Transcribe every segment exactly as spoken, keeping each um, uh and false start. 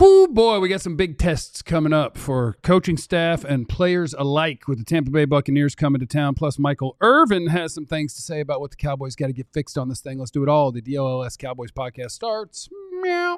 Whoo, boy, we got some big tests coming up for coaching staff and players alike with the Tampa Bay Buccaneers coming to town. Plus, Michael Irvin has some things to say about what the Cowboys got to get fixed on this thing. Let's do it all. The D L L S Cowboys podcast starts. Meow.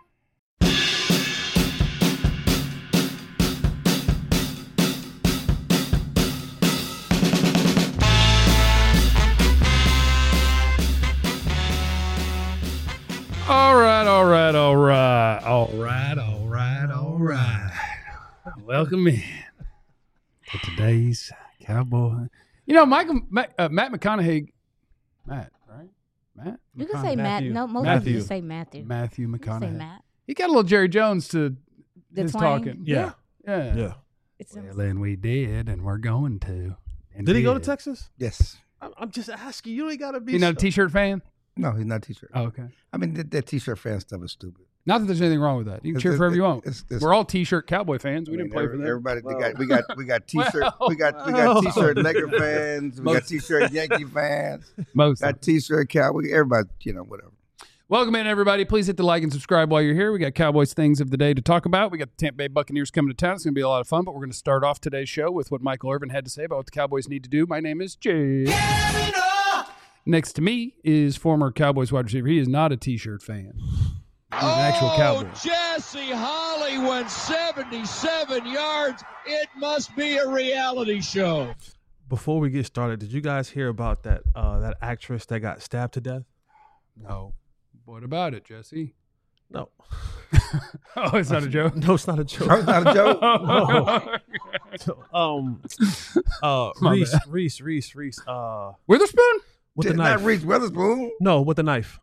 All right, all right, all right, all right, all right, all right. Welcome in to today's Cowboy. You know, Michael, Matt, uh, Matt McConaughey, Matt, right? Matt? You can say Matt. No, most Matthew. people just say Matthew. Matthew You can say McConaughey. Matt. He got a little Jerry Jones to The his twang. talking. Yeah. Yeah. Yeah. It's Well, and we did, and we're going to. And Did he go to did. Texas? Yes. I'm, I'm just asking. You ain't got to be. You not a so- T-shirt fan? No, he's not a T-shirt. Oh, okay. I mean, that, that T-shirt fan stuff is stupid. Not that there's anything wrong with that. You can It's- cheer for it's- whoever you want. it's- it's- We're all T-shirt Cowboy fans. We I didn't mean, play every- for them. Everybody, Well. we got, we got, we got T-shirt, Well. we got, we got Well. T-shirt Laker fans, we got Most- T-shirt Yankee fans, Most. got T-shirt Cowboy. Everybody, you know, whatever. Welcome in, everybody. Please hit the like and subscribe while you're here. We got Cowboys things of the day to talk about. We got the Tampa Bay Buccaneers coming to town. It's going to be a lot of fun, but we're going to start off today's show with what Michael Irvin had to say about what the Cowboys need to do. My name is Jay. Next to me is former Cowboys wide receiver. He is not a T-shirt fan. He's an actual Cowboy. Jesse Holly went seventy-seven yards. It must be a reality show. Before we get started, did you guys hear about that uh, that actress that got stabbed to death? No. What about it, Jesse? No. Oh, it's not a joke? No, it's not a joke. That's not a joke. No. um, uh, My Reese, bad. Reese, Reese, Reese. Uh, Witherspoon? with the Did knife. not Reese Witherspoon. No, with the knife.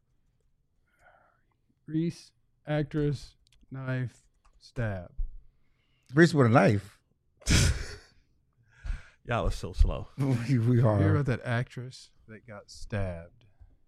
Reese, actress, knife, stab. Reese with a knife. Y'all are so slow. we, we Hear are. about that actress that got stabbed?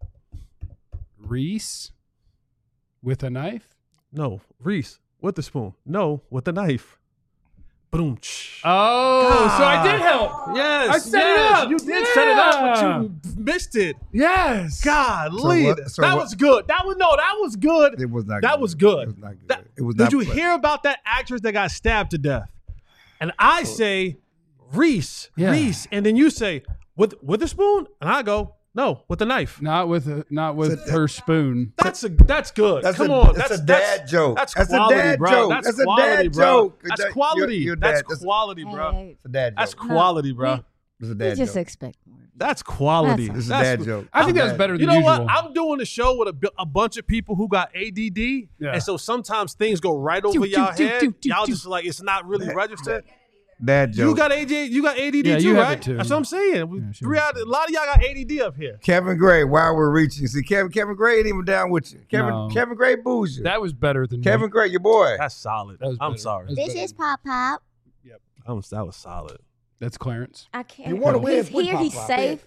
Reese with a knife? No, Reese with the spoon. No, with the knife. Boom. Oh, so I did help. Yes, I set it yes, up. You did set it up, but Yeah. you missed it. Yes. Golly, So what- so that what- was good. That was no, that was good. It was not. That good. was good. It was not good. That- it was Did not you good. hear about that actress that got stabbed to death? And I say Reese, Yeah. Reese, and then you say with with a spoon, and I go no, with a knife. Not with a, not with So that- her spoon. That's a that's good. That's Come a, on, that's, that's a dad that's, joke. That's That's quality, a dad bro. joke. That's, That's a quality, dad bro. joke. That's That- quality. you're- you're that's dad. That's- quality, Hey, bro. hey, It's a dad That's joke. quality, we- bro. It's a We dad just joke. expect more. That's quality. That's- It's a That's- dad joke. I think that was Dad. better than You know usual. what? I'm doing a show with a, bu- a bunch of people who got A D D, Yeah. and so sometimes things go right over Do, do, y'all do, head. do, do, y'all do. just like it's not really registered. Dad joke. You got A D, you got A D D Yeah, too, you have right? it too. That's what I'm saying. We- Yeah, sure. three out, a lot of y'all got A D D up here. Kevin Gray, while we're reaching. See, Kevin Kevin Gray ain't even down with you. Kevin No. Kevin Gray boos you. That was better than Kevin me. Gray, your boy. That's solid. That was I'm better. sorry. That was This better. is Pop Pop. I'm, that was solid. That's Clarence. I can't. You wanna win, He's put here. Pop He's Pop safe.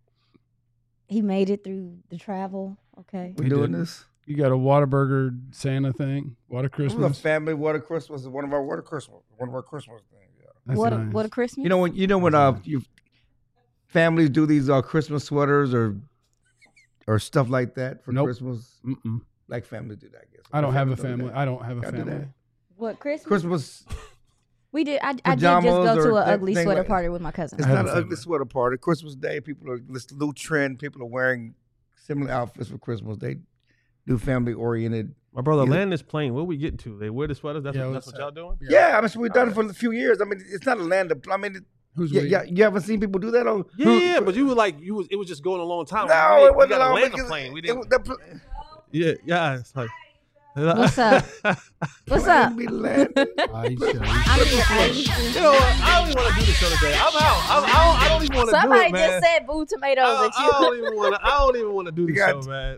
He made it through the travel. Okay. We He doing did. this? You got a Whataburger Santa thing. What a This was a Christmas. family water Christmas. One of our water Christmas. One of our Christmas things. Yeah. That's what a, nice. what a Christmas. You know when you know when uh you families do these uh Christmas sweaters or or stuff like that for Nope. Christmas. Mm-mm. Like families do that. I guess. I don't have a Families do family. that. I don't have a Gotta do family. that. what Christmas? Christmas. We did. I, I did just Pajamas go to or an ugly thing sweater like- party with my cousin. It's I have not a an ugly family. sweater party. Christmas Day, people are this new trend. People are wearing similar outfits for Christmas. They do family oriented. My brother, Yeah. land is playing. What we getting to? They wear the sweaters. That's, Yeah, what, that's what's what y'all doing? Yeah, I mean, so we've done it for a few years. I mean, it's not a land of. I mean, it, Who's yeah, we? yeah, you haven't seen people do that on. Yeah, who- yeah, but you were like, you was. It was just going a long time. No, we, it we wasn't got long. to land the because plane. We it didn't. was- the pl- yeah, yeah. It's like. What's up? What's plane up? be landing. I shall- I'm just waiting. You know what? I don't even want to do the show today. I'm out. I'm, I, don't, I don't even want to do Somebody it, man. just said boo tomatoes I, at I you. don't even want to. I don't even want to do the You got- show, man.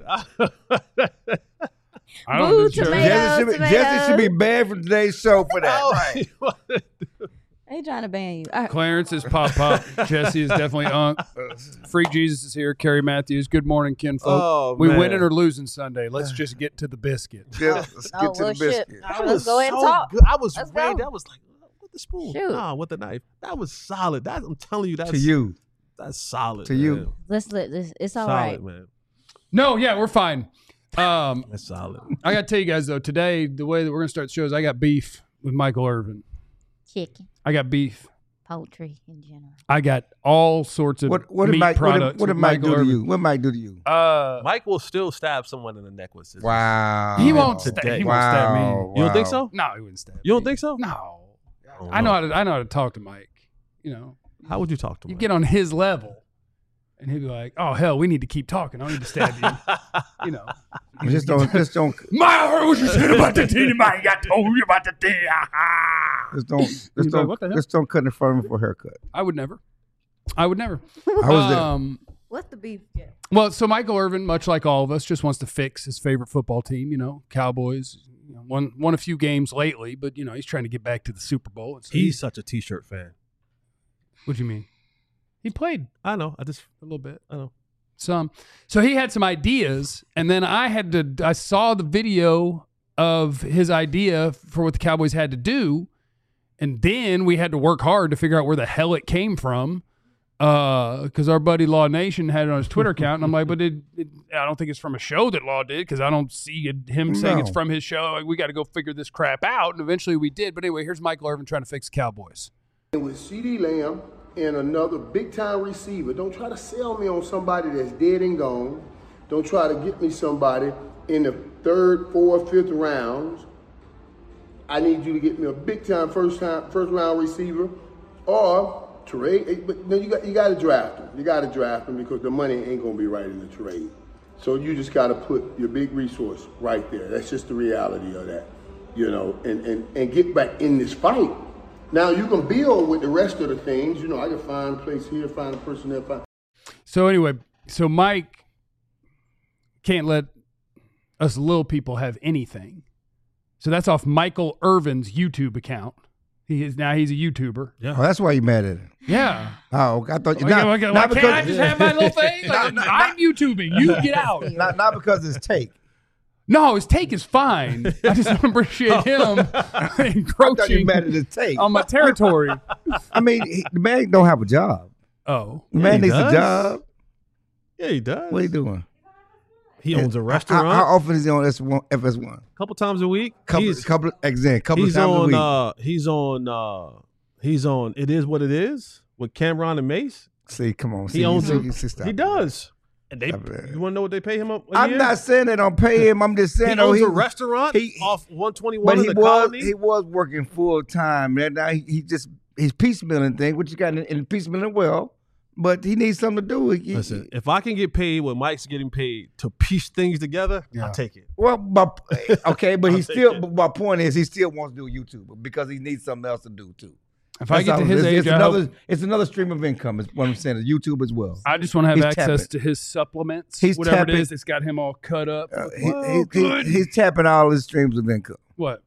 I don't Boo do church. tomato. Jesse should, be, Jesse should be banned from today's show for I that. don't Right. even wanna- They trying to ban you. All right. Clarence is Pop Pop. Jesse is definitely Unk. Freak Jesus is here. Carrie Matthews. Good morning, kinfolk. Oh, we man. winning or losing Sunday. Let's just get to the biscuit. Yeah, let's get Oh, to well, the shit. biscuit. All right, That let's was go ahead and so talk. good. I was Let's ready. go. That was like with the spoon. Shoot. Nah, with the knife. That was solid. That I'm telling you, that's To you. That's solid. To man. you. Let's let this. It's all solid, right. man. No, yeah, we're fine. Um, That's solid. I got to tell you guys, though, today, the way that we're going to start the show is I got beef with Michael Irvin. Chicken, I got beef. poultry in general. I got all sorts of What what did meat Mike what products. did, what did with Mike Michael do to Irvin. you? What Mike do to you? Uh, Mike will still stab someone in the neck with scissors. Wow. he won't Today. stab. He won't stab me. Wow. You don't think so? No, he wouldn't stab. You don't me. think so? No. don't I know know. how to. I know how to talk to Mike. You know, How would you talk to you him? get on his level, and he'd be like, "Oh hell, we need to keep talking. I don't need to stab you." You know. Just don't just don't I heard what you said about the team. I got told you about the team. just don't just He's like, don't "What the hell?" just don't cut in front of him for a haircut. I would never. I would never. I was there. Um, What's the beef? Yeah. Well, so Michael Irvin, much like all of us, just wants to fix his favorite football team. You know, Cowboys. You know, won won a few games lately, but you know he's trying to get back to the Super Bowl. And so He's such a T-shirt fan. What do you mean? He played I know. I just a little bit, I know. some. So he had some ideas, and then I had to. I saw the video of his idea for what the Cowboys had to do, and then we had to work hard to figure out where the hell it came from. Because uh, our buddy Law Nation had it on his Twitter account, and I'm like, but it, it, I don't think it's from a show that Law did, because I don't see it, him saying No. it's from his show. Like, we got to go figure this crap out, and eventually we did. But anyway, here's Michael Irvin trying to fix the Cowboys. With CeeDee Lamb and another big-time receiver, don't try to sell me on somebody that's dead and gone. Don't try to get me somebody in the third, fourth, fifth rounds. I need you to get me a big-time first-time, first-round receiver, or trade. But no, you got you got to draft him. You got to draft him because the money ain't gonna be right in the trade. So you just got to put your big resource right there. That's just the reality of that, you know. And and and get back in this fight. Now you can build with the rest of the things. You know, I can find a place here, find a person there, find. So anyway, so Mike can't let us little people have anything. So that's off Michael Irvin's YouTube account. He is now he's a YouTuber. Oh, that's why you mad at him. Yeah. Oh, I thought you Why, not, why, not why because can't I just have my little thing? Like, Not- I'm YouTubing. You get out. not not because it's take. No, his take is fine. I just don't appreciate him I thought you encroaching mad at his take. on my territory. I mean, he, the man don't have a job. Oh. The man he needs does. a job. Yeah, he does. What are you doing? He owns a How, restaurant how often is he on S one, F S one? a couple times a week. Couple, he's couple, exactly, couple he's times a on. week. Uh, he's on. Uh, he's on. It is what it is with Cameron and Mace. See, come on. He see, owns. you, A, see, see, stop he it. does. And they. Stop it. You want to know what they pay him up? a I'm year? not saying they don't pay him. I'm just He saying, oh, owns he, a restaurant he- off one twenty-one but in he the was colony. he was working full time. And now he, he just he's piecemealing thing, which you got in, in piecemealing well. But he needs something to do. He, Listen, if I can get paid what Mike's getting paid to piece things together, Yeah. I'll take it. Well, but, okay, but he I'll take still. it. But my point is, he still wants to do YouTube because he needs something else to do too. If I That's get to all. his it's, age, it's I, another. hope, It's another stream of income. Is what I'm saying. Is YouTube as well. I just want to have He's access tapping. to his supplements, He's whatever tapping. it is that's got him all cut up. Uh, he, Whoa, he- he- good. he's tapping all his streams of income. What?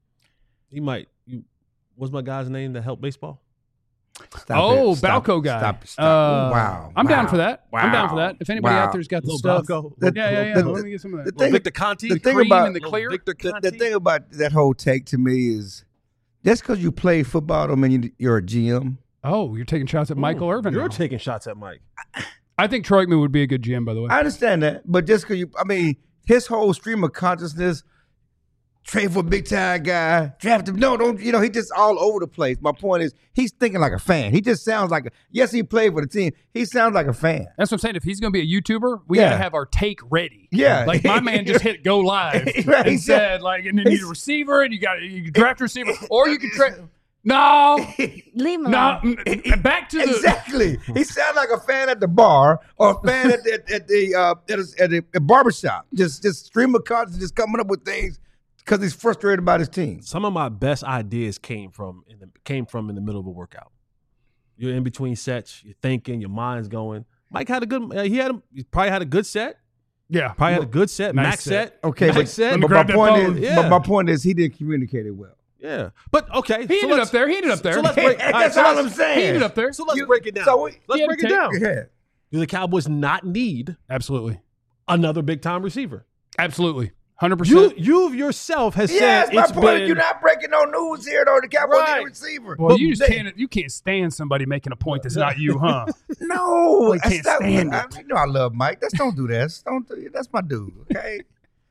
He might. You, what's my guy's name that helped baseball? Stop oh, it. Stop- Balco guy. Stop. Stop. Uh, wow. I'm down wow, for that. I'm down for wow, that. If anybody wow. out there's got the Little stuff. Balco. The- Yeah, yeah, yeah. the- Let me get some of the that. thing- Victor Conti. the thing cream about- in the clear. Victor The, Conti. the thing about that whole take to me is, just because you play football don't mean you- you're a G M. Oh, you're taking shots at Michael Irvin. You're now. taking shots at Mike. I think Troy Aikman would be a good G M, by the way. I understand that, but just because you, I mean, his whole stream of consciousness, trade for a big time guy, draft him. No, don't, you know, he just all over the place. My point is, he's thinking like a fan. He just sounds like a, yes, he played for the team. He sounds like a fan. That's what I'm saying. If he's going to be a YouTuber, we Yeah. got to have our take ready. Yeah. Like my man just hit go live Right, and he said, like, and you need a receiver and you got you can draft a receiver or you can trade. No, Leave him no. alone. mm, Back to the. Exactly. He sounds like a fan at the bar or a fan at the at, at the uh, at, a, at a, a barbershop. Just just stream of consciousness, just coming up with things because he's frustrated about his team. Some of my best ideas came from in the came from in the middle of a workout. You're in between sets. You're thinking. Your mind's going. Mike had a good. Uh, he had. A, he probably had a good set. Yeah. Probably had a good set. Nice max set. set. Okay, max but, set. Let me but my grab that point phone. is, Yeah. but my point is, he didn't communicate it well. Yeah, but okay. He so ended let's- up there. He ended up there. So let's break. That's all right, so all let's- I'm saying. He ended up there. So let's You- break it down. so we- let's He had break to it take- down. Yeah. Do the Cowboys not need Absolutely. another big time receiver? Absolutely. one hundred You percent. you yourself has Yes, said my it's point is been. you're not breaking no news here, though. The Cowboys Right. need a receiver. Well, But you just they- can't. You can't stand somebody making a point that's not you, huh? No, I can't that's not- stand I, it. you know I love Mike. That's don't do that. Don't do, that's my dude. Okay.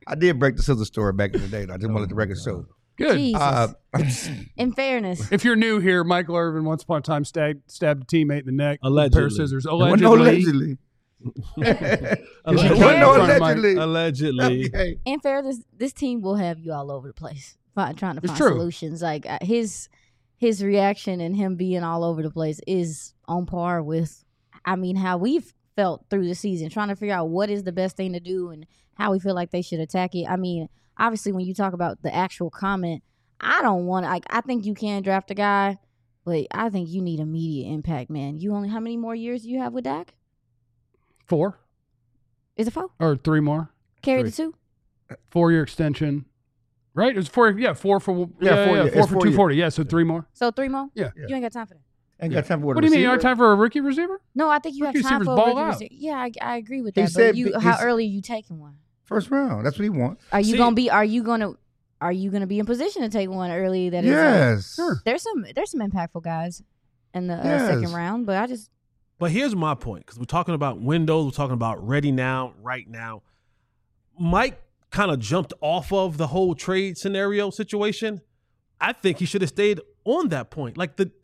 I did break the scissor story back in the day. Though. I just wanted to let the record show. Good. Jesus. Uh, In fairness, If you're new here, Michael Irvin once upon a time stabbed, stabbed a teammate in the neck with a Allegedly. pair of scissors. well, Allegedly. no, allegedly. Because he Allegedly. cut no, in front of Mike. allegedly. Allegedly. Okay. in fairness, this team will have you all over the place fi- trying to It's find true. solutions. Like uh, his his reaction and him being all over the place is on par with, I mean, how we've felt through the season, trying to figure out what is the best thing to do and how we feel like they should attack it. I mean, obviously, when you talk about the actual comment, I don't want. Like, I think you can draft a guy, but I think you need immediate impact, man. You only how many more years do you have with Dak? Four Is it four? or three more. Carry Three. the two. Four year extension. Right? It was four. Yeah, four for yeah, Yeah, four yeah, year- four it's for four two year. forty. Yeah, so three more. So three more. Yeah. You ain't got time for that. Ain't got time for What do you mean? You don't have time for a rookie receiver? No, I think you Rookie have time receivers for a ball rookie out. receiver. Yeah, I, I agree with He that. said But you, b- how he's- early are you taking one? First round. That's what he wants. Are you See- gonna be? Are you gonna? Are you gonna be in position to take one early? That is. uh, Yes. Sure. there's some. There's some impactful guys in the uh, Yes. second round, but I just. But here's my point, because we're talking about windows, we're talking about ready now, right now. Mike kind of jumped off of the whole trade scenario situation. I think he should have stayed on that point. Like the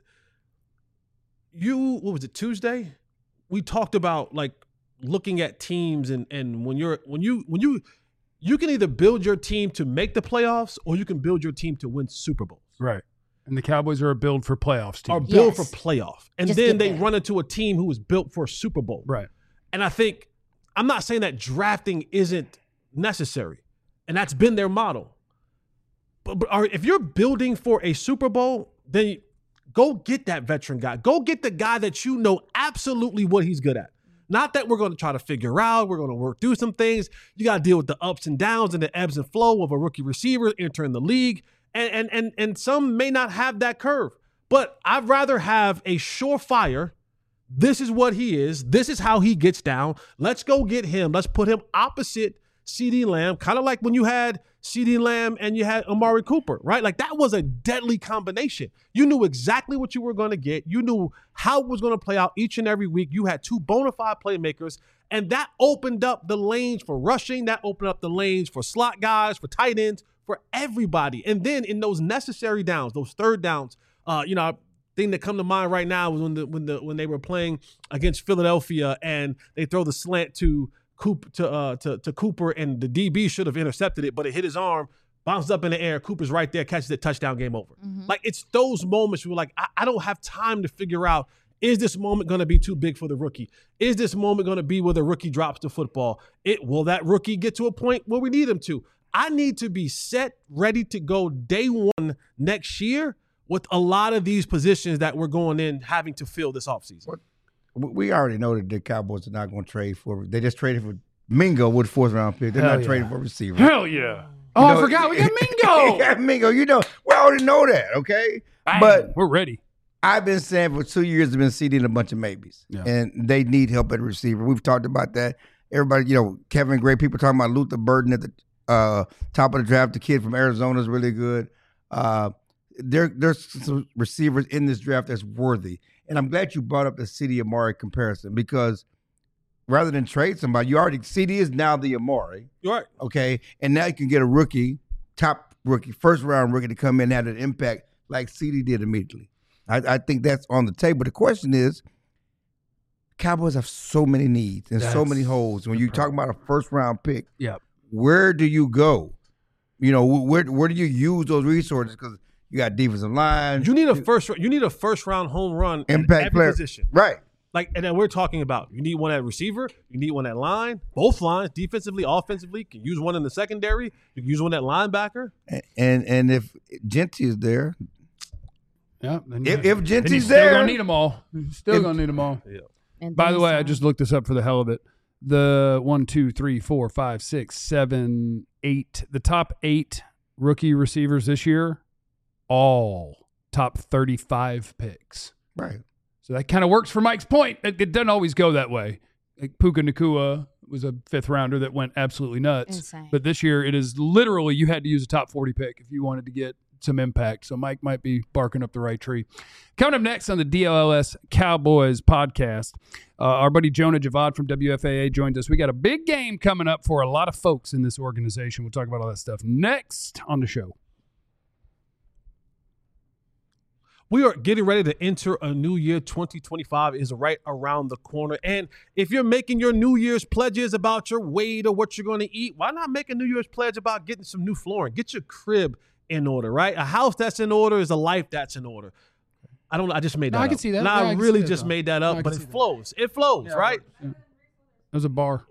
you, what was it, Tuesday? We talked about like looking at teams and and when you're when you when you you can either build your team to make the playoffs or you can build your team to win Super Bowls. Right. And the Cowboys are a build for playoffs team. Or build Yes. for playoff. And Just then get they there. run into a team who was built for a Super Bowl. Right. And I think, I'm not saying that drafting isn't necessary, and that's been their model. But, but are, if you're building for a Super Bowl, then go get that veteran guy. Go get the guy that you know absolutely what he's good at. Not that we're going to try to figure out, we're going to work through some things. You got to deal with the ups and downs and the ebbs and flow of a rookie receiver entering the league. And, and, and, and some may not have that curve. But I'd rather have a surefire, this is what he is, this is how he gets down. Let's go get him. Let's put him opposite CeeDee Lamb, kind of like when you had CeeDee Lamb and you had Amari Cooper, right? Like that was a deadly combination. You knew exactly what you were going to get. You knew how it was going to play out each and every week. You had two bona fide playmakers, and that opened up the lanes for rushing. That opened up the lanes for slot guys, for tight ends, for everybody. And then in those necessary downs, those third downs, uh, you know, thing that come to mind right now was when the when the when they were playing against Philadelphia and they throw the slant to Coop to uh to, to Cooper and the D B should have intercepted it, but it hit his arm, bounced up in the air. Cooper's right there, catches it, touchdown, game over. Mm-hmm. Like it's those moments where like I, I don't have time to figure out, is this moment going to be too big for the rookie? Is this moment going to be where the rookie drops the football? It will that rookie get to a point where we need him to? I need to be set, ready to go day one next year with a lot of these positions that we're going in having to fill this offseason. What? We already know that the Cowboys are not going to trade for. They just traded for Mingo with fourth round pick. They're Hell not yeah. trading for a receiver. Hell yeah. Oh, You I know- forgot. We got Mingo. yeah, Mingo. You know, we already know that. Okay, Bang. but we're ready. I've been saying for two years, I've been seeding a bunch of maybes, Yeah. and they need help at receiver. We've talked about that. Everybody, you know, Kevin Gray. People talking about Luther Burden at the uh, top of the draft. The kid from Arizona is really good. Uh, there, there's some receivers in this draft that's worthy, and I'm glad you brought up the C D Amari comparison because rather than trade somebody, you already C D is now the Amari. You're right. Okay, and now you can get a rookie, top rookie, first round rookie to come in and have an impact like C D did immediately. I, I think that's on the table. The question is, Cowboys have so many needs and so That's many holes. When you talk about a first round pick, Yep. where do you go? You know, where where do you use those resources? Because you got defensive line, You need a first. You need a first round home run impact at every player, position. right? Like, and then we're talking about you need one at receiver, you need one at line, both lines, defensively, offensively. You can use one in the secondary. You can use one at linebacker. And and, and if Genty is there, Yeah. Then If- you- if then Genty's he's still there- gonna need them all. He's still If- gonna need them all. And By then the way, I some. just looked this up for the hell of it. The one, two, three, four, five, six, seven, eight. The top eight rookie receivers this year, all top thirty-five picks. right? So that kind of works for Mike's point. It, it doesn't always go that way. Like Puka Nacua was a fifth rounder that went absolutely nuts. Insane. But this year, it is literally you had to use a top forty pick if you wanted to get some impact. So Mike might be barking up the right tree. Coming up next on the D L L S Cowboys podcast, uh, our buddy Jonah Javad from W F A A joined us. We got a big game coming up for a lot of folks in this organization. We'll talk about all that stuff next on the show. We are getting ready to enter a new year. twenty twenty-five is right around the corner. And if you're making your New Year's pledges about your weight or what you're going to eat, why not make a New Year's pledge about getting some new flooring? Get your crib in order, right? A house that's in order is a life that's in order. I don't know. I just made that No, I up. can see that. No, Yeah, I I can really see that, just though. made that No, up, I but can it see that. flows. It flows, Yeah, right? yeah. There's a bar.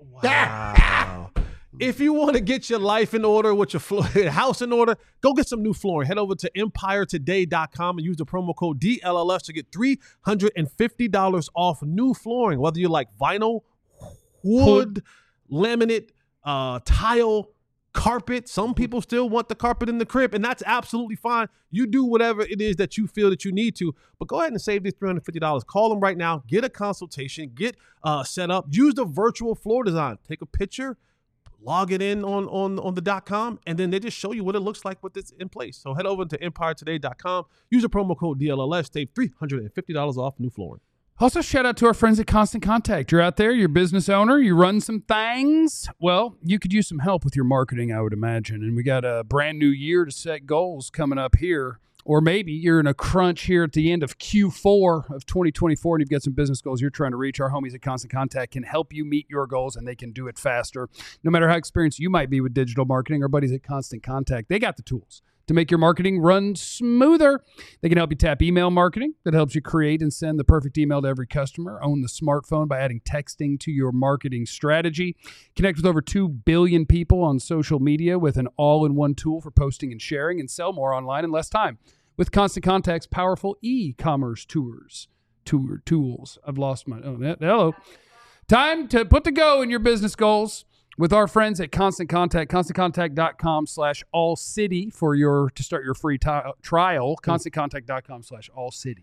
Wow. If you want to get your life in order with your flo- house in order, go get some new flooring. Head over to empire today dot com and use the promo code D L L S to get three hundred fifty dollars off new flooring. Whether you like vinyl, wood, laminate, uh, tile, carpet. Some people still want the carpet in the crib, and that's absolutely fine. You do whatever it is that you feel that you need to, but go ahead and save these three hundred fifty dollars. Call them right now. Get a consultation. Get uh, set up. Use the virtual floor design. Take a picture. Log it in on, on, on the dot com, and then they just show you what it looks like with this in place. So head over to empire today dot com. Use the promo code D L L S. Save three hundred fifty dollars off new flooring. Also, shout out to our friends at Constant Contact. You're out there, you're a business owner, you run some things. Well, you could use some help with your marketing, I would imagine. And we got a brand new year to set goals coming up here. Or maybe you're in a crunch here at the end of Q four of twenty twenty-four and you've got some business goals you're trying to reach. Our homies at Constant Contact can help you meet your goals, and they can do it faster. No matter how experienced you might be with digital marketing, our buddies at Constant Contact, they got the tools to make your marketing run smoother. They can help you tap email marketing that helps you create and send the perfect email to every customer. Own the smartphone by adding texting to your marketing strategy. Connect with over two billion people on social media with an all-in-one tool for posting and sharing, and sell more online in less time with Constant Contact's powerful e-commerce tours, tour tools. I've lost my, oh, hello. Time to put the go in your business goals with our friends at Constant Contact, constant contact dot com slash all city for your, to start your free t- trial, constant contact dot com slash all city.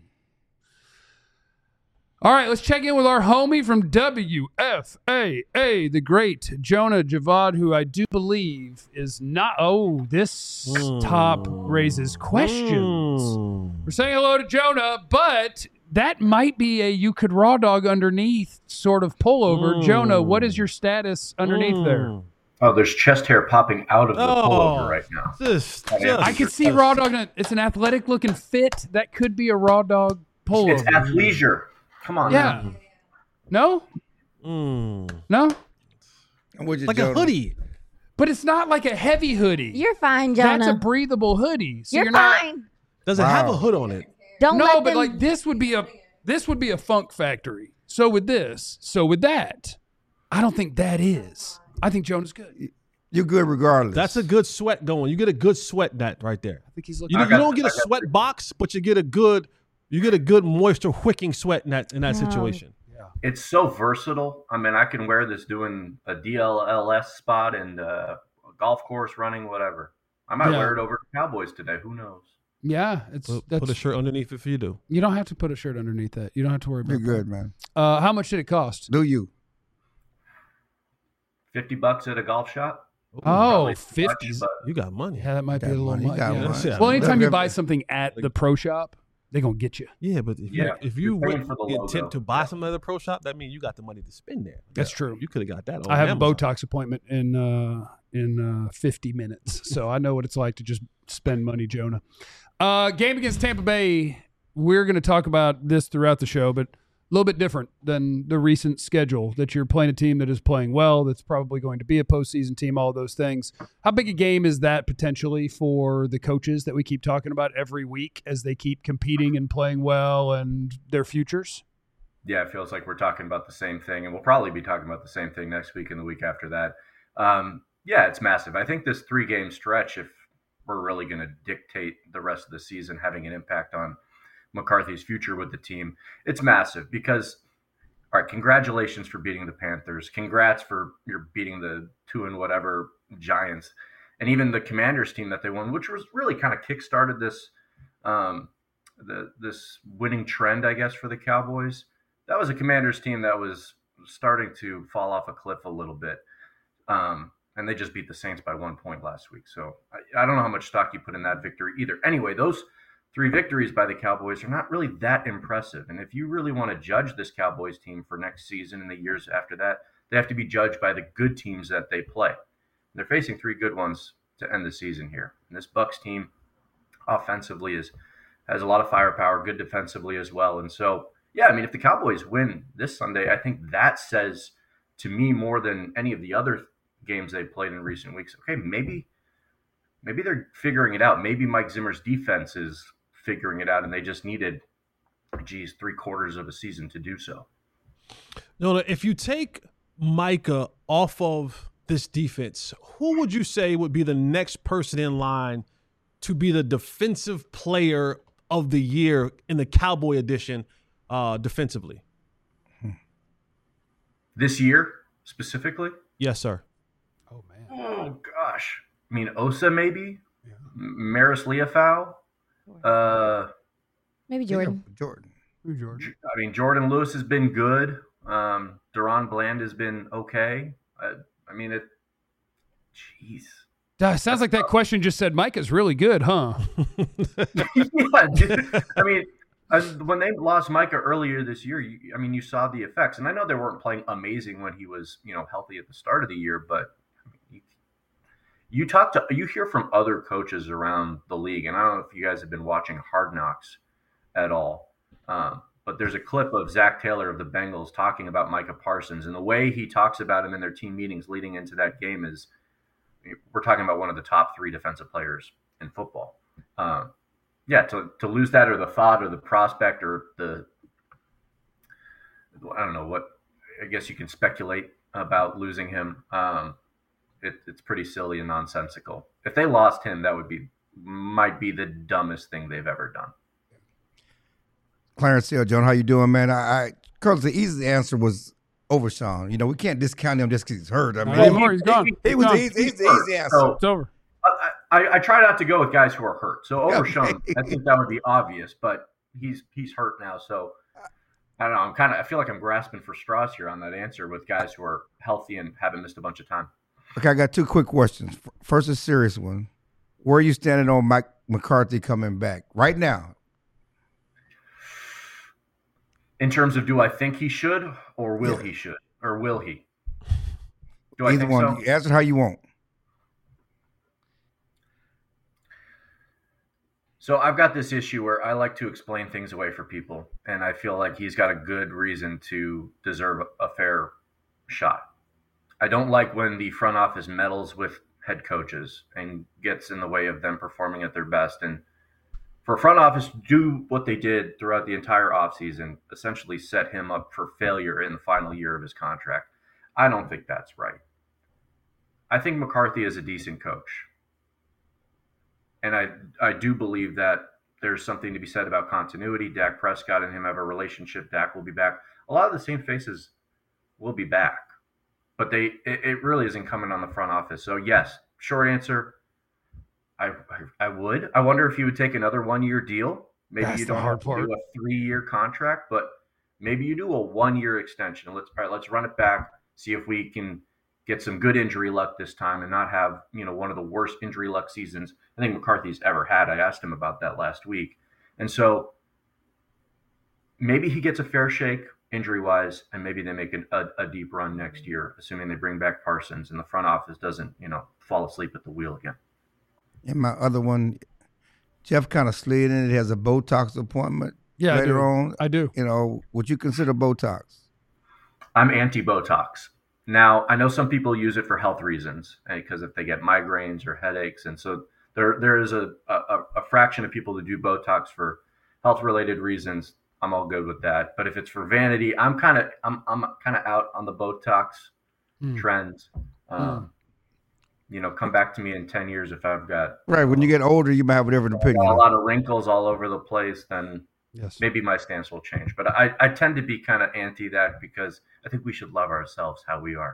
All right, let's check in with our homie from W F A A, the great Jonah Javad, who I do believe is not, oh, this Mm. top raises questions. Mm. We're saying hello to Jonah, but that might be a you could raw dog underneath sort of pullover. Mm. Jonah, what is your status underneath there? Mm. Oh, there's chest hair popping out of the Oh. pullover right now. Just, I mean, just, I can see raw dog. It's an athletic looking fit. That could be a raw dog pullover. It's athleisure. Come on. Yeah. now. No? Mm. No? I'm with you, Like Jonah. a hoodie. But it's not like a heavy hoodie. You're fine, Jonah. That's a breathable hoodie. So you're, you're, not. fine. Does it have a Wow. hood on it? Don't No, let but them, like this would be a this would be a funk factory. So with this, so with that, I don't think that is. I think Jonah's good. You're good regardless. That's a good sweat going. You get a good sweat net right there. I think he's You, looking. I you got- don't get a I got sweat three. box, but you get a good you get a good moisture wicking sweat in that in that No. situation. It's so versatile. I mean, I can wear this doing a D L L S spot and uh, a golf course running, whatever. I might Yeah. wear it over to Cowboys today. Who knows? Yeah, it's Put, that's, put a shirt underneath if you do. you don't have to put a shirt underneath that. You don't have to worry You're about good, man. that. Uh, how much did it cost? Do you? fifty bucks at a golf shop? Oh, Probably too much, fifties. but You got money. Yeah, that might be Got a little money, much. got Yeah. money. Yeah. Well, anytime you Look, buy if- something at the pro shop, they're gonna get you. Yeah, but if Yeah, you if you you're paying went for the with the logo. intent to buy something at the pro shop, that means you got the money to spend there. That's Yeah, true. You could have got that. On I have Amazon. a Botox appointment in uh, in uh, fifty minutes, so I know what it's like to just spend money, Jonah. Uh, game against Tampa Bay. We're going to talk about this throughout the show, but a little bit different than the recent schedule. That you're playing a team that is playing well, that's probably going to be a postseason team. All those things. How big a game is that potentially for the coaches that we keep talking about every week as they keep competing and playing well and their futures? Yeah, it feels like we're talking about the same thing, and we'll probably be talking about the same thing next week and the week after that. Um, yeah, it's massive. I think this three-game stretch, if we're really going to dictate the rest of the season having an impact on McCarthy's future with the team, it's massive because, all right, congratulations for beating the Panthers. Congrats for your beating the two and whatever Giants, and even the Commanders team that they won, which was really kind of kickstarted this um, the this winning trend, I guess, for the Cowboys. That was a Commanders team that was starting to fall off a cliff a little bit. Um, and they just beat the Saints by one point last week. So I, I don't know how much stock you put in that victory either. Anyway, those three victories by the Cowboys are not really that impressive. And if you really want to judge this Cowboys team for next season and the years after that, they have to be judged by the good teams that they play. They're facing three good ones to end the season here. And this Bucs team offensively is has a lot of firepower, good defensively as well. And so, yeah, I mean, if the Cowboys win this Sunday, I think that says to me more than any of the other games they've played in recent weeks, okay, maybe maybe they're figuring it out. Maybe Mike Zimmer's defense is figuring it out, and they just needed, geez, three quarters of a season to do so. No, if you take Micah off of this defense, who would you say would be the next person in line to be the defensive player of the year in the Cowboy edition uh, defensively? This year, specifically? Yes, sir. Oh, man. Oh, gosh. I mean, Osa maybe? Yeah. Maris Leafau? Uh, Maybe Jordan. Jordan. Who Jordan? I mean, Jordan Lewis has been good. Um, Deron Bland has been okay. I, I mean, it. Jeez. Uh, sounds like that question just said Mike is really good, huh? Yeah, dude. I mean, uh, when they lost Micah earlier this year, you, I mean, you saw the effects. And I know they weren't playing amazing when he was, you know, healthy at the start of the year, but I mean, you, you talk to, you hear from other coaches around the league, and I don't know if you guys have been watching Hard Knocks at all, um, but there's a clip of Zach Taylor of the Bengals talking about Micah Parsons, and the way he talks about him in their team meetings leading into that game is, we're talking about one of the top three defensive players in football. Um, yeah, to to lose that, or the thought, or the prospect, or the, I don't know what, I guess you can speculate about losing him. Um, it, it's pretty silly and nonsensical. If they lost him, that would be, might be the dumbest thing they've ever done. Clarence Hill, John, how you doing, man? I, I Carlos, the easy answer was Overshawn. You know, we can't discount him just because he's hurt. I mean, Not anymore. He's gone. He was He's the easy, he's the easy answer. So, It's over. I, I, I try not to go with guys who are hurt. So Overshawn, Okay. I think that would be obvious, but he's he's hurt now. So I don't know. I'm kind of I feel like I'm grasping for straws here on that answer with guys who are healthy and haven't missed a bunch of time. Okay, I got two quick questions. First, a serious one. Where are you standing on Mike McCarthy coming back right now? In terms of, do I think he should, or will Yeah. he should, or will he? Do I Either think one. so? You answer how you want. So I've got this issue where I like to explain things away for people, and I feel like he's got a good reason to deserve a fair shot. I don't like when the front office meddles with head coaches and gets in the way of them performing at their best. And for a front office to do what they did throughout the entire offseason, essentially set him up for failure in the final year of his contract, I don't think that's right. I think McCarthy is a decent coach. And I I do believe that there's something to be said about continuity. Dak Prescott and him have a relationship. Dak will be back. A lot of the same faces will be back. But they it, it really is incumbent on the front office. So, yes, short answer, I, I I would. I wonder if you would take another one-year deal. Maybe That's you the don't hard have to part. do a three-year contract, but maybe you do a one-year extension. Let's all right, let's run it back, see if we can get some good injury luck this time and not have, you know, one of the worst injury luck seasons I think McCarthy's ever had. I asked him about that last week. And so maybe he gets a fair shake injury-wise, and maybe they make an, a, a deep run next year, assuming they bring back Parsons and the front office doesn't, you know, fall asleep at the wheel again. And my other one, Jeff kind of slid in. It has a Botox appointment Yeah, I later do. on. I do. You know, would you consider Botox? I'm anti-Botox. Now, I know some people use it for health reasons, because if they get migraines or headaches, and so there there is a, a, a fraction of people that do Botox for health-related reasons. I'm all good with that. But if it's for vanity, I'm kind of I'm I'm kind of out on the Botox Mm. trends. Um, You know, come back to me in ten years if I've got Right. When you get older, you might have a different a opinion. lot of wrinkles all over the place. Then Yes. maybe my stance will change. But I, I tend to be kind of anti that, because I think we should love ourselves how we are.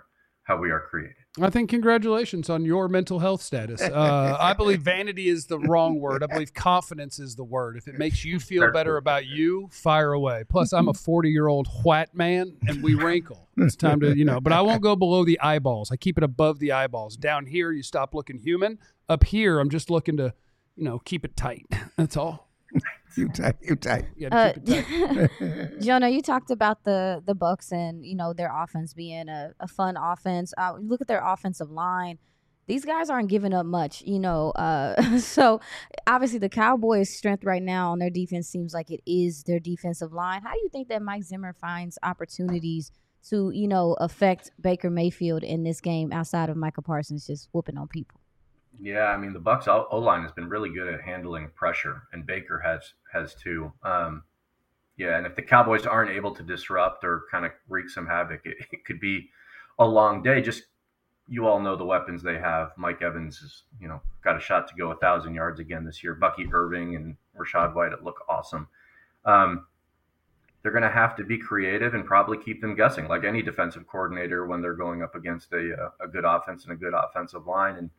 how we are created. I think congratulations on your mental health status. Uh, I believe vanity is the wrong word. I believe confidence is the word. If it makes you feel better about you, fire away. Plus, I'm a forty-year-old white man, and we wrinkle. It's time to, you know, but I won't go below the eyeballs. I keep it above the eyeballs. Down here, you stop looking human. Up here, I'm just looking to, you know, keep it tight. That's all. You tight, you tight. You Uh, gotta keep it tight. Jonah, you talked about the the Bucks and you know their offense being a, a fun offense. Uh, you look at their offensive line; these guys aren't giving up much, you know. Uh, so obviously, the Cowboys' strength right now on their defense seems like it is their defensive line. How do you think that Mike Zimmer finds opportunities to you know affect Baker Mayfield in this game outside of Micah Parsons just whooping on people? Yeah, I mean the Bucks O line has been really good at handling pressure, and Baker has has too. Um, yeah, and if the Cowboys aren't able to disrupt or kind of wreak some havoc, it, it could be a long day. Just you all know the weapons they have. Mike Evans has you know got a shot to go a thousand yards again this year. Bucky Irving and Rachaad White look awesome. Um, they're going to have to be creative and probably keep them guessing, like any defensive coordinator when they're going up against a a good offense and a good offensive line. And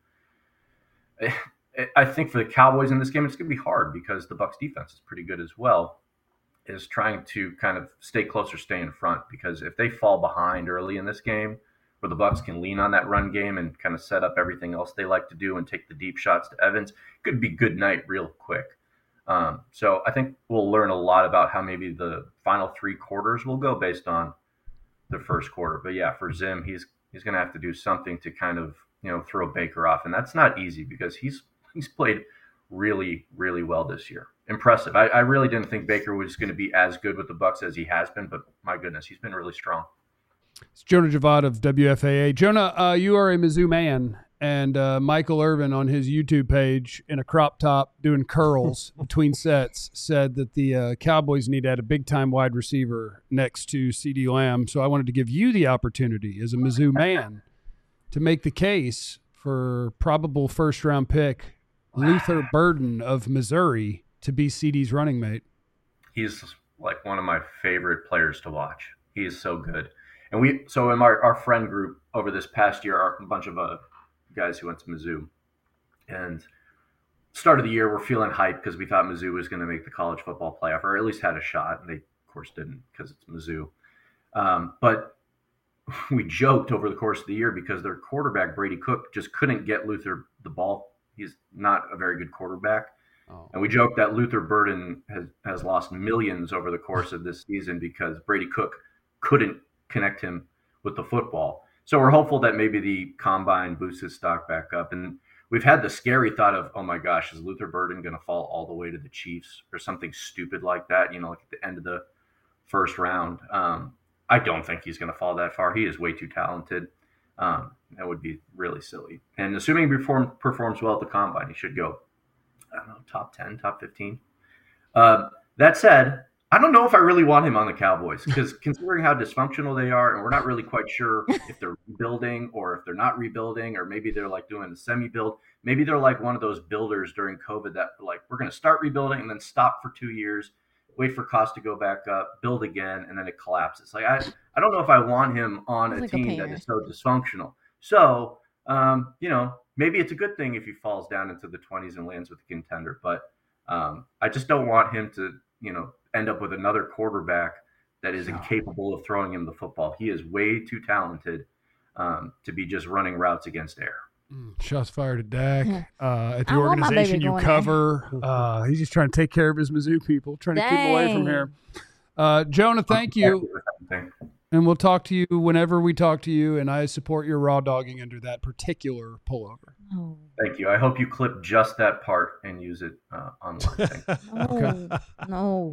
I think for the Cowboys in this game, it's going to be hard because the Bucs defense is pretty good as well, is trying to kind of stay close or stay in front, because if they fall behind early in this game where the Bucs can lean on that run game and kind of set up everything else they like to do and take the deep shots to Evans, it could be good night real quick. Um, so I think we'll learn a lot about how maybe the final three quarters will go based on the first quarter. But yeah, for Zim, he's he's going to have to do something to kind of you know, throw Baker off. And that's not easy because he's he's played really, really well this year. Impressive. I, I really didn't think Baker was going to be as good with the Bucs as he has been, but my goodness, he's been really strong. It's Jonah Javad of W F A A. Jonah, uh, you are a Mizzou man, and uh, Michael Irvin on his YouTube page in a crop top doing curls between sets said that the uh, Cowboys need to add a big-time wide receiver next to CeeDee Lamb. So I wanted to give you the opportunity as a Mizzou man to make the case for probable first-round pick Luther Burden of Missouri to be C D's running mate. He's like one of my favorite players to watch. He is so good. And we, so in our, our friend group over this past year, our, a bunch of uh, guys who went to Mizzou, and start of the year, we're feeling hyped because we thought Mizzou was going to make the college football playoff, or at least had a shot. And they, of course, didn't because it's Mizzou. Um, but we joked over the course of the year because their quarterback, Brady Cook, just couldn't get Luther the ball. He's not a very good quarterback. Oh. And we joked that Luther Burden has, has lost millions over the course of this season because Brady Cook couldn't connect him with the football. So we're hopeful that maybe the combine boosts his stock back up. And we've had the scary thought of, oh my gosh, is Luther Burden going to fall all the way to the Chiefs or something stupid like that, you know, like at the end of the first round. Um, I don't think he's going to fall that far. He is way too talented. Um, that would be really silly. And assuming he perform, performs well at the combine, he should go, I don't know, top ten, top fifteen. Uh, that said, I don't know if I really want him on the Cowboys because considering how dysfunctional they are, and we're not really quite sure if they're rebuilding or if they're not rebuilding, or maybe they're like doing a semi-build. Maybe they're like one of those builders during COVID that like, we're going to start rebuilding and then stop for two years. Wait for costs to go back up, build again, and then it collapses. Like I, I don't know if I want him on a like team a that is so dysfunctional. So, um, you know, maybe it's a good thing if he falls down into the twenties and lands with a contender. But um, I just don't want him to, you know, end up with another quarterback that is incapable of throwing him the football. He is way too talented um, to be just running routes against air. Shots fired at Dak. Uh, at the I want my organization baby you going cover. Uh, he's just trying to take care of his Mizzou people, trying to keep them away from Dang. here. Uh, Jonah, thank you. And we'll talk to you whenever we talk to you, and I support your raw dogging under that particular pullover. Oh. Thank you. I hope you clip just that part and use it uh, online. No, Okay. no,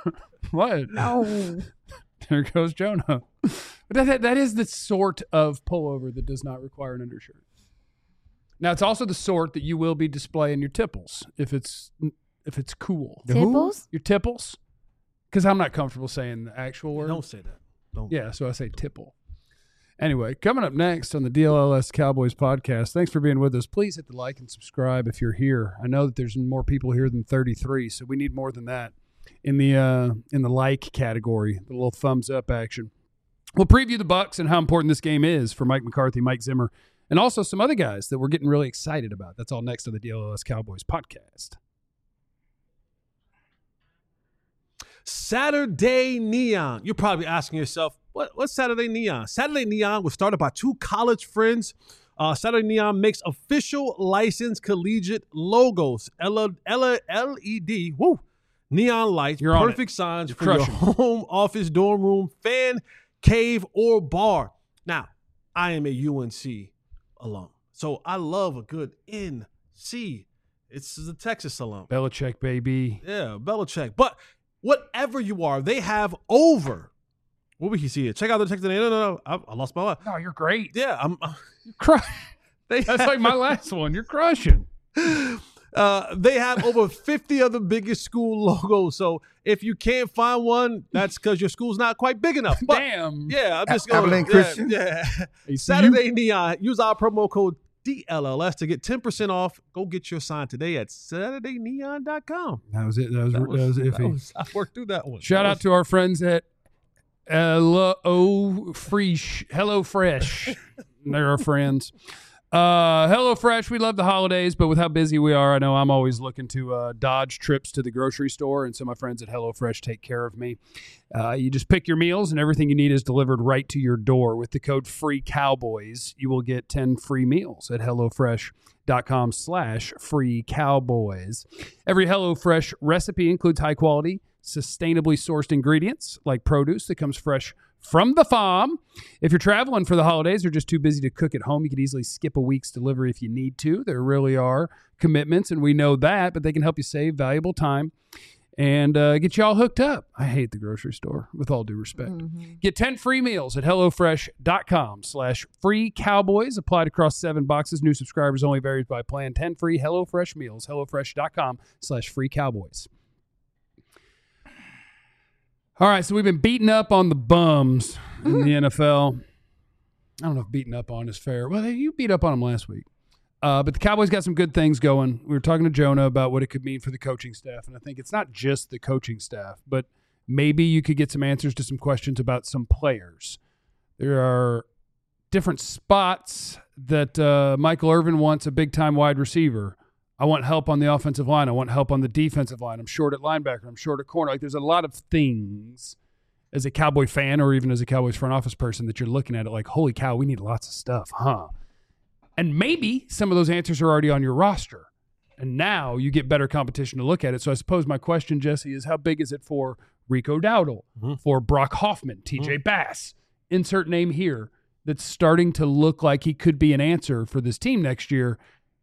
What? no. There goes Jonah. But that, that, that is the sort of pullover that does not require an undershirt. Now, it's also the sort that you will be displaying your tipples if it's if it's cool. Tipples? Your tipples? Because I'm not comfortable saying the actual word. Don't say that. Don't. Yeah, so I say tipple. Anyway, coming up next on the D L L S Cowboys podcast, thanks for being with us. Please hit the like and subscribe if you're here. I know that there's more people here than thirty-three, so we need more than that in the uh, in the like category, the little thumbs up action. We'll preview the Bucs and how important this game is for Mike McCarthy, Mike Zimmer, and also some other guys that we're getting really excited about. That's all next on the D L L S Cowboys podcast. Saturday Neon. You're probably asking yourself, what, what's Saturday Neon? Saturday Neon was started by two college friends. Uh, Saturday Neon makes official licensed collegiate logos. L E D, woo, neon lights, You're on perfect it. signs You're for your crushing. home, office, dorm room, fan, cave, or bar. Now, I am a U N C alum, so I love a good N C. It's the Texas alum. Belichick, baby. Yeah, Belichick. But whatever you are, they have over. What we can see it. Check out the Texas. No, no, no. I, I lost my life. No, you're great. Yeah, I'm. Uh, You're crushing. they That's have, like my last one. You're crushing. Uh, they have over fifty of the biggest school logos. So if you can't find one, that's because your school's not quite big enough. But Damn. yeah, I'm just A- going. Abilene Yeah, Christian? yeah. Hey, Saturday Neon. Use our promo code D L L S to get ten percent off. Go get your sign today at saturday neon dot com. That was it. That was, that was, that iffy. was- I worked through that one. Shout That out to our friends at Hello Fresh. Hello Fresh. They're our friends. Uh, Hello Fresh. We love the holidays, but with how busy we are, I know I'm always looking to uh, dodge trips to the grocery store, and so my friends at Hello Fresh take care of me. Uh, you just pick your meals, and everything you need is delivered right to your door. With the code FREECOWBOYS, you will get ten free meals at HelloFresh.com slash free cowboys. Every HelloFresh recipe includes high quality, sustainably sourced ingredients like produce that comes fresh from the farm. If you're traveling for the holidays or just too busy to cook at home, you could easily skip a week's delivery if you need to. There really are commitments, and we know that, but they can help you save valuable time and uh, get you all hooked up. I hate the grocery store, with all due respect. Mm-hmm. Get ten free meals at HelloFresh.com slash free cowboys. Applied across seven boxes. New subscribers only varies by plan. ten free HelloFresh meals. HelloFresh.com slash free cowboys. All right, so we've been beating up on the bums in the N F L. I don't know if beating up on is fair. Well, you beat up on them last week. Uh, but the Cowboys got some good things going. We were talking to Jonah about what it could mean for the coaching staff, and I think it's not just the coaching staff, but maybe you could get some answers to some questions about some players. There are different spots that uh, Michael Irvin wants a big-time wide receiver. I want help on the offensive line. I want help on the defensive line. I'm short at linebacker. I'm short at corner. Like, there's a lot of things as a Cowboy fan or even as a Cowboys front office person that you're looking at it like, holy cow, we need lots of stuff, huh? And maybe some of those answers are already on your roster. And now you get better competition to look at it. So I suppose my question, Jesse, is how big is it for Rico Dowdle, Mhm. for Brock Hoffman, T J Bass, insert name here, that's starting to look like he could be an answer for this team next year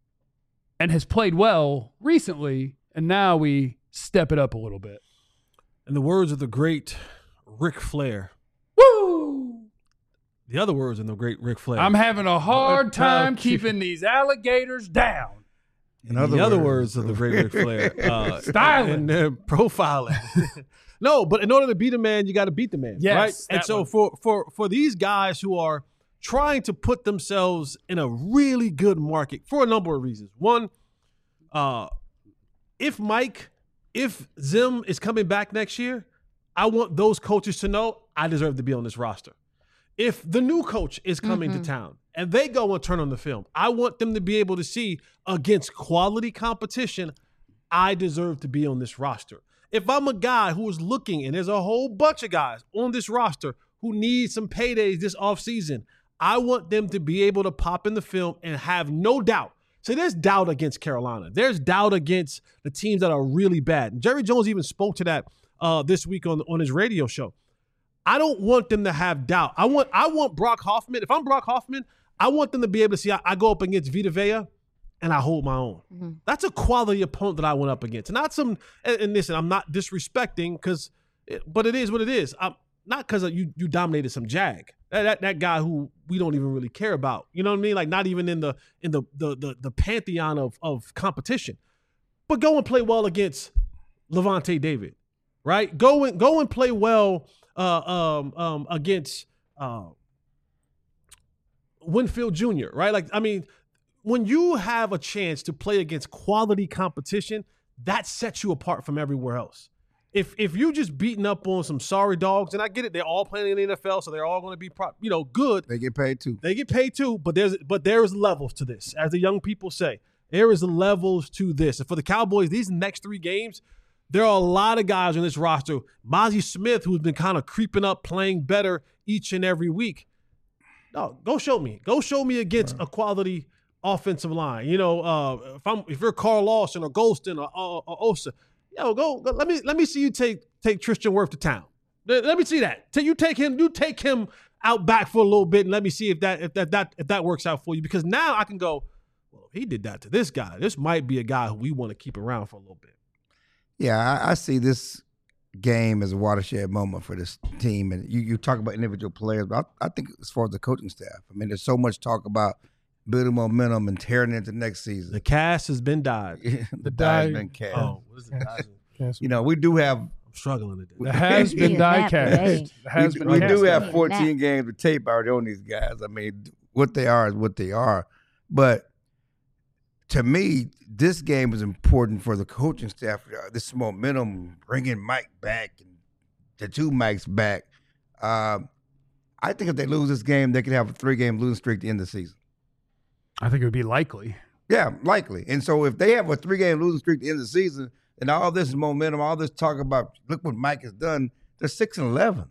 and has played well recently, and now we step it up a little bit. In the words of the great Ric Flair. Woo! The other words in the great Ric Flair. I'm having a hard time keeping- keeping these alligators down. In the other words of the great Ric Flair. Uh, Styling. And uh, profiling. No, but in order to beat a man, you got to beat the man. Yes, right? And that so one. for, for, for these guys who are trying to put themselves in a really good market for a number of reasons. One, uh, if Mike, if Zim is coming back next year, I want those coaches to know I deserve to be on this roster. If the new coach is coming Mhm. to town and they go and turn on the film, I want them to be able to see against quality competition, I deserve to be on this roster. If I'm a guy who is looking, and there's a whole bunch of guys on this roster who need some paydays this offseason, I want them to be able to pop in the film and have no doubt. So there's doubt against Carolina. There's doubt against the teams that are really bad. And Jerry Jones even spoke to that uh, this week on, on his radio show. I don't want them to have doubt. I want I want Brock Hoffman. If I'm Brock Hoffman, I want them to be able to see I, I go up against Vita Vea and I hold my own. Mm-hmm. That's a quality opponent that I went up against. Not some, and, and listen, I'm not disrespecting because, but it is what it is. I'm not because you you dominated some jag. That, that that guy who we don't even really care about. You know what I mean? Like not even in the in the the the, the pantheon of of competition. But go and play well against Levante David, right? Go and go and play well uh, um, um, against uh, Winfield Junior, right? Like I mean, when you have a chance to play against quality competition, that sets you apart from everywhere else. if if you just beating up on some sorry dogs, and I get it, they're all playing in the N F L, so they're all going to be, pro- you know, good. They get paid too. They get paid too, but there's but there is levels to this, as the young people say. There is levels to this, and for the Cowboys, these next three games, there are a lot of guys on this roster. Mozzie Smith, who's been kind of creeping up, playing better each and every week. No, go show me. Go show me against right. a quality offensive line. You know, uh, if I'm if you're Carl Lawson or Golston or, or, or Osa. Yo, go, go. Let me let me see you take take Tristan Wirth to town. Let, let me see that. Till you take him, you take him out back for a little bit, and let me see if that if that that if that works out for you. Because now I can go. Well, if he did that to this guy, this might be a guy who we want to keep around for a little bit. Yeah, I, I see this game as a watershed moment for this team. And you you talk about individual players, but I, I think as far as the coaching staff, I mean, there's so much talk about building momentum and tearing into next season. The cast has been died. the, the die has been cast. Oh, what is it? Cast? You know, we do have. I'm struggling to do. The has been die cast. Has we been we cast. do have fourteen games of tape already on these guys. I mean, what they are is what they are. But to me, this game is important for the coaching staff. This momentum, bringing Mike back and the two Mikes back. Uh, I think if they lose this game, they could have a three-game losing streak at the end of the season. I think it would be likely. Yeah, likely. And so if they have a three-game losing streak at the end of the season, and all this momentum, all this talk about, look what Mike has done, they're six and eleven.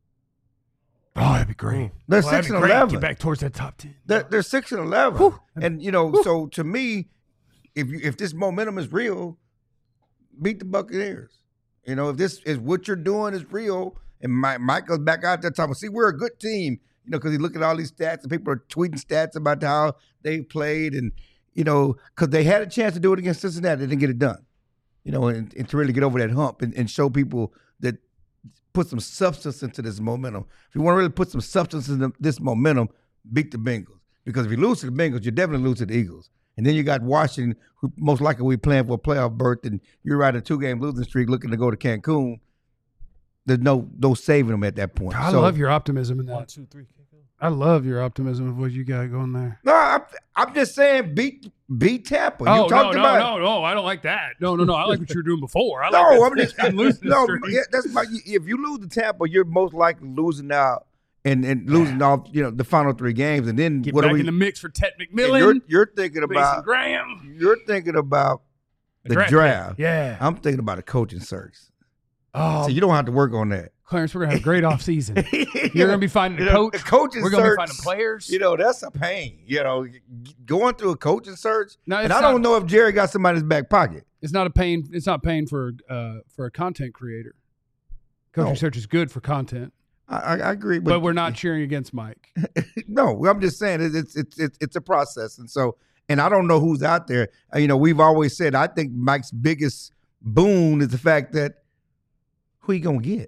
Oh, that'd be great. They're well, six and great. eleven. Get back towards that top ten. They're, they're six and eleven. Whew. And, you know, Whew. so to me, if you, if this momentum is real, beat the Buccaneers. You know, if this is what you're doing is real, and Mike, Mike goes back out there talking, see, we're a good team, you know, because he look at all these stats, and people are tweeting stats about how they played, and, you know, because they had a chance to do it against Cincinnati, they didn't get it done. You know, and, and to really get over that hump and, and show people that put some substance into this momentum. If you want to really put some substance into this momentum, beat the Bengals. Because if you lose to the Bengals, you definitely lose to the Eagles. And then you got Washington, who most likely will be playing for a playoff berth, and you're riding a two-game losing streak looking to go to Cancun. There's no no saving them at that point. I so, love your optimism in that. One, two, three. I love your optimism of what you got going there. No, I'm, I'm just saying beat beat Tampa. Oh, you talked no, about, no, no, no. I don't like that. No, no, no. I like what you were doing before. I no, like I'm just I'm losing no. the Yeah, that's my. If you lose to Tampa, you're most likely losing out and, and losing off. You know, the final three games, and then get what back are we, in the mix for Ted McMillan. You're, you're thinking Mason about Graham. You're thinking about the, the draft. draft. Yeah, I'm thinking about a coaching search. Oh, so you don't have to work on that. Clarence, we're going to have a great offseason. You're going to be finding a you know, coach. coaching we're going to be search, finding players. You know, that's a pain. You know, going through a coaching search. No, and it's I not, don't know if Jerry got somebody's back pocket. It's not a pain. It's not pain for uh, for a content creator. Coaching No. search is good for content. I, I, I agree. But, but we're not cheering against Mike. No, I'm just saying it's, it's it's it's it's a process. And so, and I don't know who's out there. Uh, You know, we've always said, I think Mike's biggest boon is the fact that who you going to get?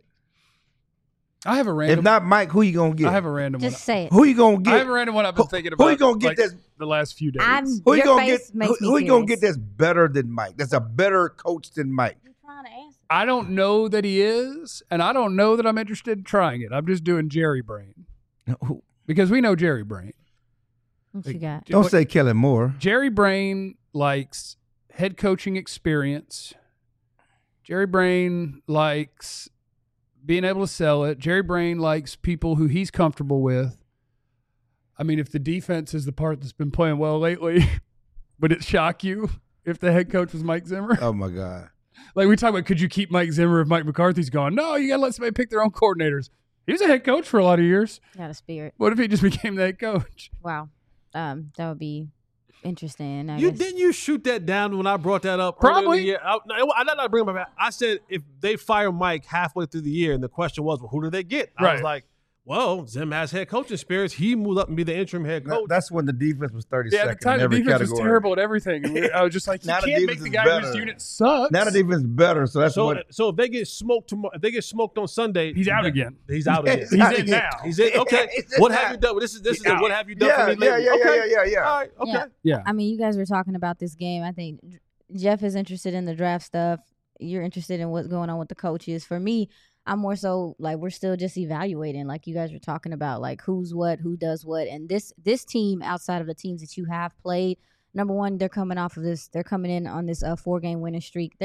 I have a random. If not Mike, who you gonna get? I have a random Just one. say it. Who you gonna get? I have a random one I've been Who- thinking who about. you gonna get like, that's- the last few days? I'm- Who you Your gonna face get? makes Who, me who you gonna curious. get that's better than Mike? That's a better coach than Mike. I'm trying to answer. I don't know that he is, and I don't know that I'm interested in trying it. I'm just doing Jerry Brain Who- because we know Jerry Brain. What you got? Don't What- say Kellen Moore. Jerry Brain likes head coaching experience. Jerry Brain likes being able to sell it. Jerry Brain likes people who he's comfortable with. I mean, if the defense is the part that's been playing well lately, would it shock you if the head coach was Mike Zimmer? Oh my God. Like we talk about, could you keep Mike Zimmer if Mike McCarthy's gone? No, you got to let somebody pick their own coordinators. He was a head coach for a lot of years. Got a spirit. What if he just became the head coach? Wow. Um, that would be interesting. I You guess. didn't you shoot that down when I brought that up? Probably. Yeah, I, no, I did not bring him back. I said if they fire Mike halfway through the year, and the question was, well, who do they get? I Right. was like, well, Zim has head coaching experience. He moved up and be the interim head That- coach. that's when the defense was thirty Yeah, at the second time, in the every defense category. was terrible at everything. And we- I was just like, you Now the can't make defense the is guy whose better. unit sucks. Now the defense is better, so that's so, what. so if they get smoked tomorrow, if they get smoked on Sunday, He's out then- again. He's out again. He's in now. He's in. Okay. He's in What now. have you done? This is this is Yeah. a, what have you done Yeah, for me yeah, lately? yeah, yeah, okay. yeah, yeah, yeah. All right. Okay. Yeah. Yeah. I mean, you guys were talking about this game. I think J- Jeff is interested in the draft stuff. You're interested in what's going on with the coaches. For me, I'm more so like we're still just evaluating, like you guys were talking about, like who's what, who does what, and this this team outside of the teams that you have played. Number one, they're coming off of this. They're coming in on this uh, four game winning streak. They're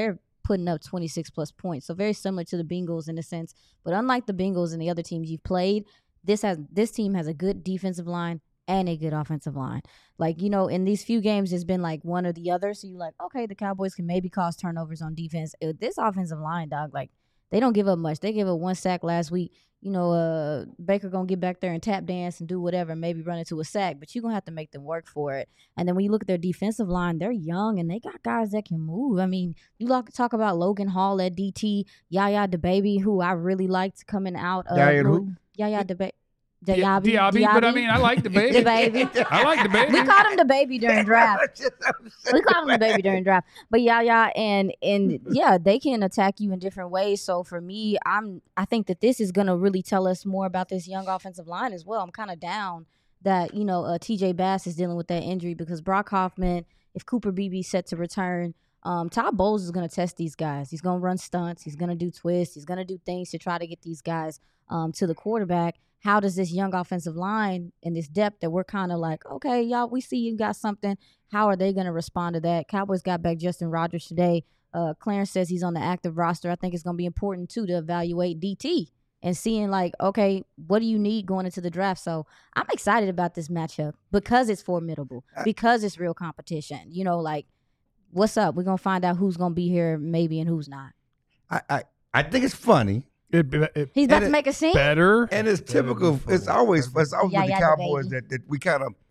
putting up twenty-six plus points. So very similar to the Bengals in a sense. But unlike the Bengals and the other teams you've played, this has this team has a good defensive line and a good offensive line. Like, you know, in these few games, it's been like one or the other. So you're like, okay, the Cowboys can maybe cause turnovers on defense. Uh, This offensive line, dog, like, they don't give up much. They gave up one sack last week. You know, uh, Baker going to get back there and tap dance and do whatever, maybe run into a sack, but you're going to have to make them work for it. And then when you look at their defensive line, they're young and they got guys that can move. I mean, you like talk about Logan Hall at D T, Yaya DeBaby, who I really liked coming out of. Yaya who? Yaya DeBaby. Diaby, Diaby, but I mean, I like the baby. The baby. I like the baby. We called him the baby during draft. We called him the baby during draft. But yeah, yeah, and and yeah, they can attack you in different ways. So for me, I'm I think that this is gonna really tell us more about this young offensive line as well. I'm kind of down that you know uh, T J Bass is dealing with that injury because Brock Hoffman, if Cooper Beebe's set to return. Um, Todd Bowles is going to test these guys. He's going to run stunts. He's going to do twists. He's going to do things to try to get these guys um, to the quarterback. How does this young offensive line and this depth that we're kind of like, okay, y'all, we see you got something. How are they going to respond to that? Cowboys got back Justin Rogers today. Uh, Clarence says he's on the active roster. I think it's going to be important, too, to evaluate D T and seeing, like, okay, what do you need going into the draft? So I'm excited about this matchup because it's formidable, because it's real competition. You know, like, what's up? We're going to find out who's going to be here maybe and who's not. I, I, I think it's funny. It, it, He's about and to it- make a scene? better. And it's typical. It's always it's always Yeah, with the yeah, the Cowboys baby. that, that we kind of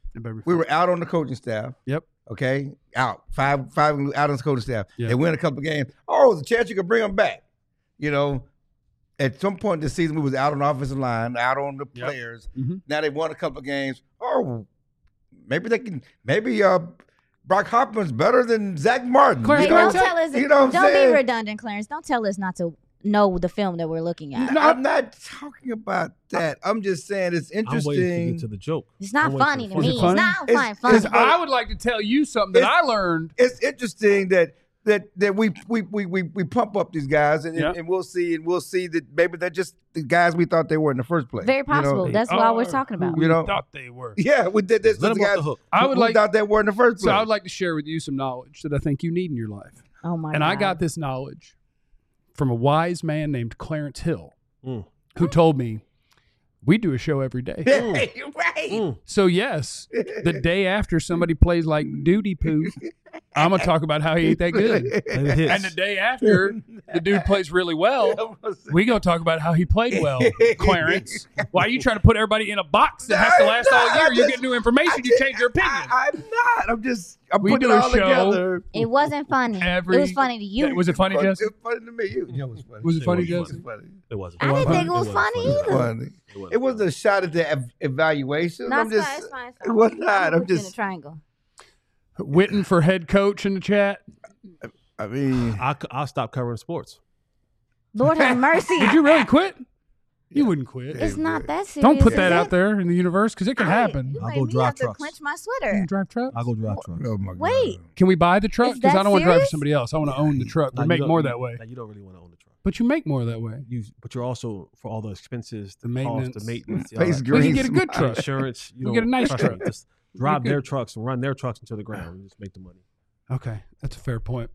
we were out on the coaching staff. Yep. Okay, out five five out on the coaching staff. Yeah. They win a couple of games. Oh, there's a chance you could bring them back. You know, at some point this season we was out on the offensive line, out on the Yep. players. Mhm. Now they won a couple of games. Oh, maybe they can. Maybe uh, Brock Hoffman's better than Zach Martin. Clarence, Hey, you know, don't tell us. you know what I'm don't saying? be redundant, Clarence. Don't tell us not to know the film that we're looking at. No, I'm not talking about that. I'm just saying it's I'm waiting to interesting. get to the joke. It's not I'm waiting funny for to the Is me. it funny? It's not It's- fine, funny. Because I would like to tell you something that It's- I learned. It's interesting that that that we we we we, we pump up these guys and, Yeah. and we'll see and we'll see that maybe they're just the guys we thought they were in the first place. Very you know? possible. That's why we're talking about. You know? thought they were. Yeah, we did this. Let these him off guys the hook. I would we like. thought they were in the first So place. I would like to share with you some knowledge that I think you need in your life. Oh my and god! I got this knowledge from a wise man named Clarence Hill, Mm. who told me we do a show every day. Hey, right. Mm. So yes, the day after somebody plays like duty poo, I'm gonna talk about how he ain't that good. And it hits. And the day after the dude plays really well, we gonna talk about how he played well. Clarence, why are you trying to put everybody in a box that has to last all year? You get new information, you change your opinion. I, I'm not. I'm just. I'm We putting do it a all show together. It wasn't funny. Every- it was funny to you. Was it funny, It was Jesse? funny to me. You, you know, it was funny. Was it It funny, was Jesse? It was funny. It wasn't. I didn't think it was wasn't funny funny. either. Funny. It wasn't It wasn't funny. a shot at the ev- evaluation. No, I'm it's just. fine. It's fine. It's It fine. was I'm not. gonna I'm put you in a just. triangle. Witten for head coach in the chat. I mean, I, I'll stop covering sports. Lord have mercy. Did you really quit? You wouldn't quit. It's not that serious. Don't put is that it? out there in the universe because it can I- happen. You I'll made go me drive have to trucks. clench my You sweater. can drive trucks. I'll go drive trucks. oh my God. Wait. Can we buy the truck? Is Because I that don't want to drive for serious? somebody else. I want to own the truck. Now, We you make don't- more you- that way. now, you don't really want to own the truck. But you make more that way. You, but you're also for all the expenses, the, The cost, maintenance. the maintenance, the Face all that We green can get a good smile. truck. insurance. You We get a don't- nice trust me, truck. Just drive We their could- trucks and run their trucks into the ground and just make the money. Okay, that's a fair point.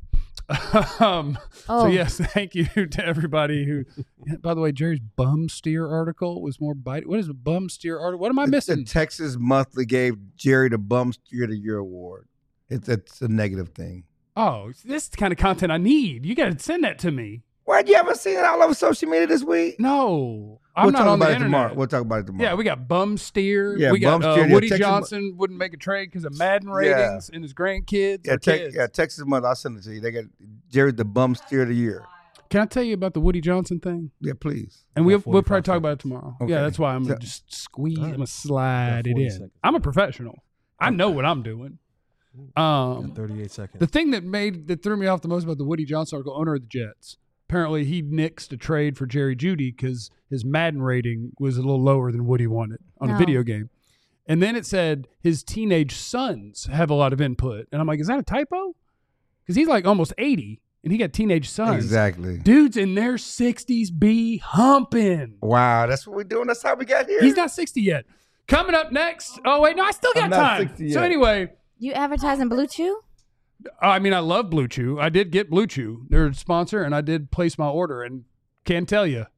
um, Oh. So yes, thank you to everybody who. By the way, Jerry's bum steer article was more bite. What is a bum steer article? What am I The- missing? The Texas Monthly gave Jerry the Bum Steer of the Year award. It's, it's a negative thing. Oh, this is the kind of content I need. You got to send that to me. What? You haven't seen it all over social media this week? No, I'm we'll not talk on about the it internet. tomorrow. We'll talk about it tomorrow. Yeah, we got bum steer. Yeah, we got bum uh, steer. Yeah, Woody Texas- Johnson wouldn't make a trade because of Madden Yeah. ratings and his grandkids. yeah, or te- kids. yeah, Texas Monthly. I'll send it to you. They got Jerry the Bum Steer of the Year. Can I tell you about the Woody Johnson thing? Yeah, please. And Got we'll, we'll forty-five probably talk about it seconds. tomorrow. Okay. Yeah, that's why I'm going So- to just squeeze, All I'm right. going to slide Got it forty in. seconds. I'm a professional. I know what I'm doing. Um, Got thirty-eight seconds. the thing that made that threw me off the most about the Woody Johnson article, owner of the Jets, apparently he nixed a trade for Jerry Jeudy because his Madden rating was a little lower than Woody wanted on No. a video game. And then it said his teenage sons have a lot of input. And I'm like, is that a typo? Because he's like almost eighty and he got teenage sons. Exactly. Dudes in their sixties be humping. Wow, that's what we're doing. That's how we got here. He's not sixty yet. Coming up next. Oh, wait, no, I still got I'm not time. sixty So yet. anyway, You advertising Blue Chew? I mean, I love Blue Chew. I did get Blue Chew. They're a sponsor, and I did place my order, and can't tell you.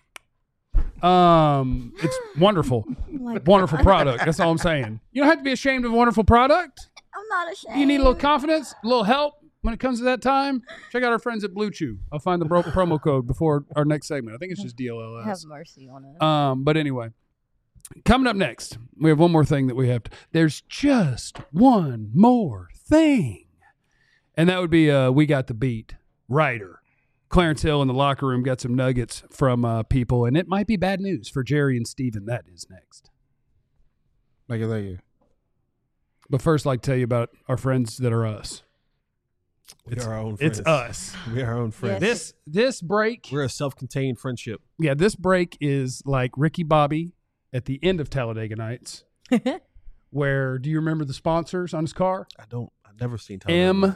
Um, it's wonderful. my Wonderful God. product. That's all I'm saying. You don't have to be ashamed of a wonderful product. I'm not ashamed. You need a little confidence, a little help when it comes to that time. Check out our friends at Blue Chew. I'll find the bro- promo code before our next segment. I think it's just D L L S. Have mercy on us. Um, but anyway, coming up next, we have one more thing that we have to. There's just one more thing, and that would be uh, we got the beat writer. Clarence Hill in the locker room got some nuggets from uh, people, and it might be bad news for Jerry and Steven. That is next. Thank you, thank you. But first, I'd like to tell you about our friends that are us. We It's, are our own friends. it's us. We are our own friends. Yes. This this break, We're a self-contained friendship. yeah, this break is like Ricky Bobby at the end of Talladega Nights. Where do you remember the sponsors on his car? I don't. I've never seen M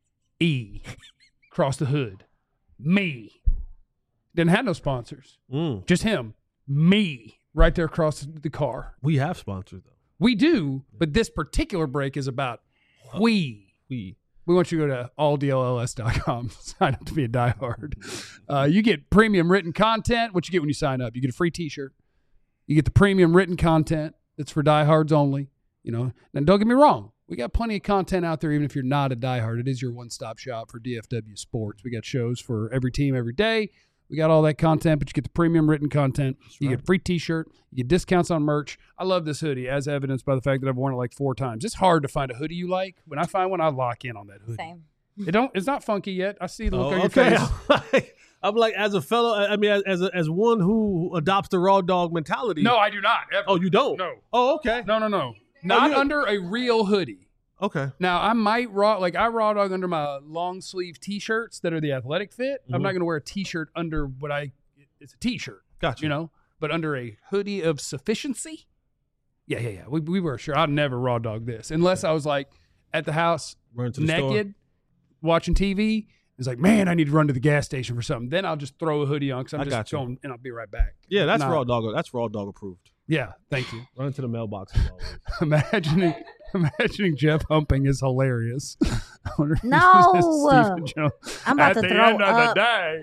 E across the hood. Me. Didn't have no sponsors. Mm. Just him. Me. Right there across the car. We have sponsors though. We do, but this particular break is about we. We. We want you to go to all D L L S dot com. Sign up to be a diehard. Uh, you get premium written content. What you get when you sign up? You get a free T-shirt. You get the premium written content that's for diehards only. You know, and don't get me wrong. We got plenty of content out there, even if you're not a diehard. It is your one-stop shop for D F W sports. We got shows for every team every day. We got all that content, but you get the premium written content. That's you right. get a free T-shirt. You get discounts on merch. I love this hoodie, as evidenced by the fact that I've worn it like four times. It's hard to find a hoodie you like. When I find one, I lock in on that hoodie. Same. It don't. It's not funky yet. I see the look Oh, on your okay. face. I'm like, I'm like, as a fellow, I mean, as as, a, as one who adopts the raw dog mentality. No, I do not. Ever. Oh, you don't? No. Oh, okay. No, no, no. Not you- under a real hoodie. Okay. Now, I might raw, like I raw dog under my long sleeve T-shirts that are the athletic fit. I'm Mhm. not going to wear a T-shirt under what I, it's a T-shirt, Gotcha. you know, but under a hoodie of sufficiency. Yeah, yeah, yeah. We, we were sure. I'd never raw dog this unless I was like at the house Run to the naked, watching T V. It's like, man, I need to run to the gas station for something. Then I'll just throw a hoodie on because I'm I just got you. going and I'll be right back. Yeah, that's Nah. raw dog. That's raw dog approved. Yeah, thank you. Run to the mailbox as always. imagining imagining Jeff humping is hilarious. I wonder if No. Stephen Jones I'm about at to the throw end up. of the day.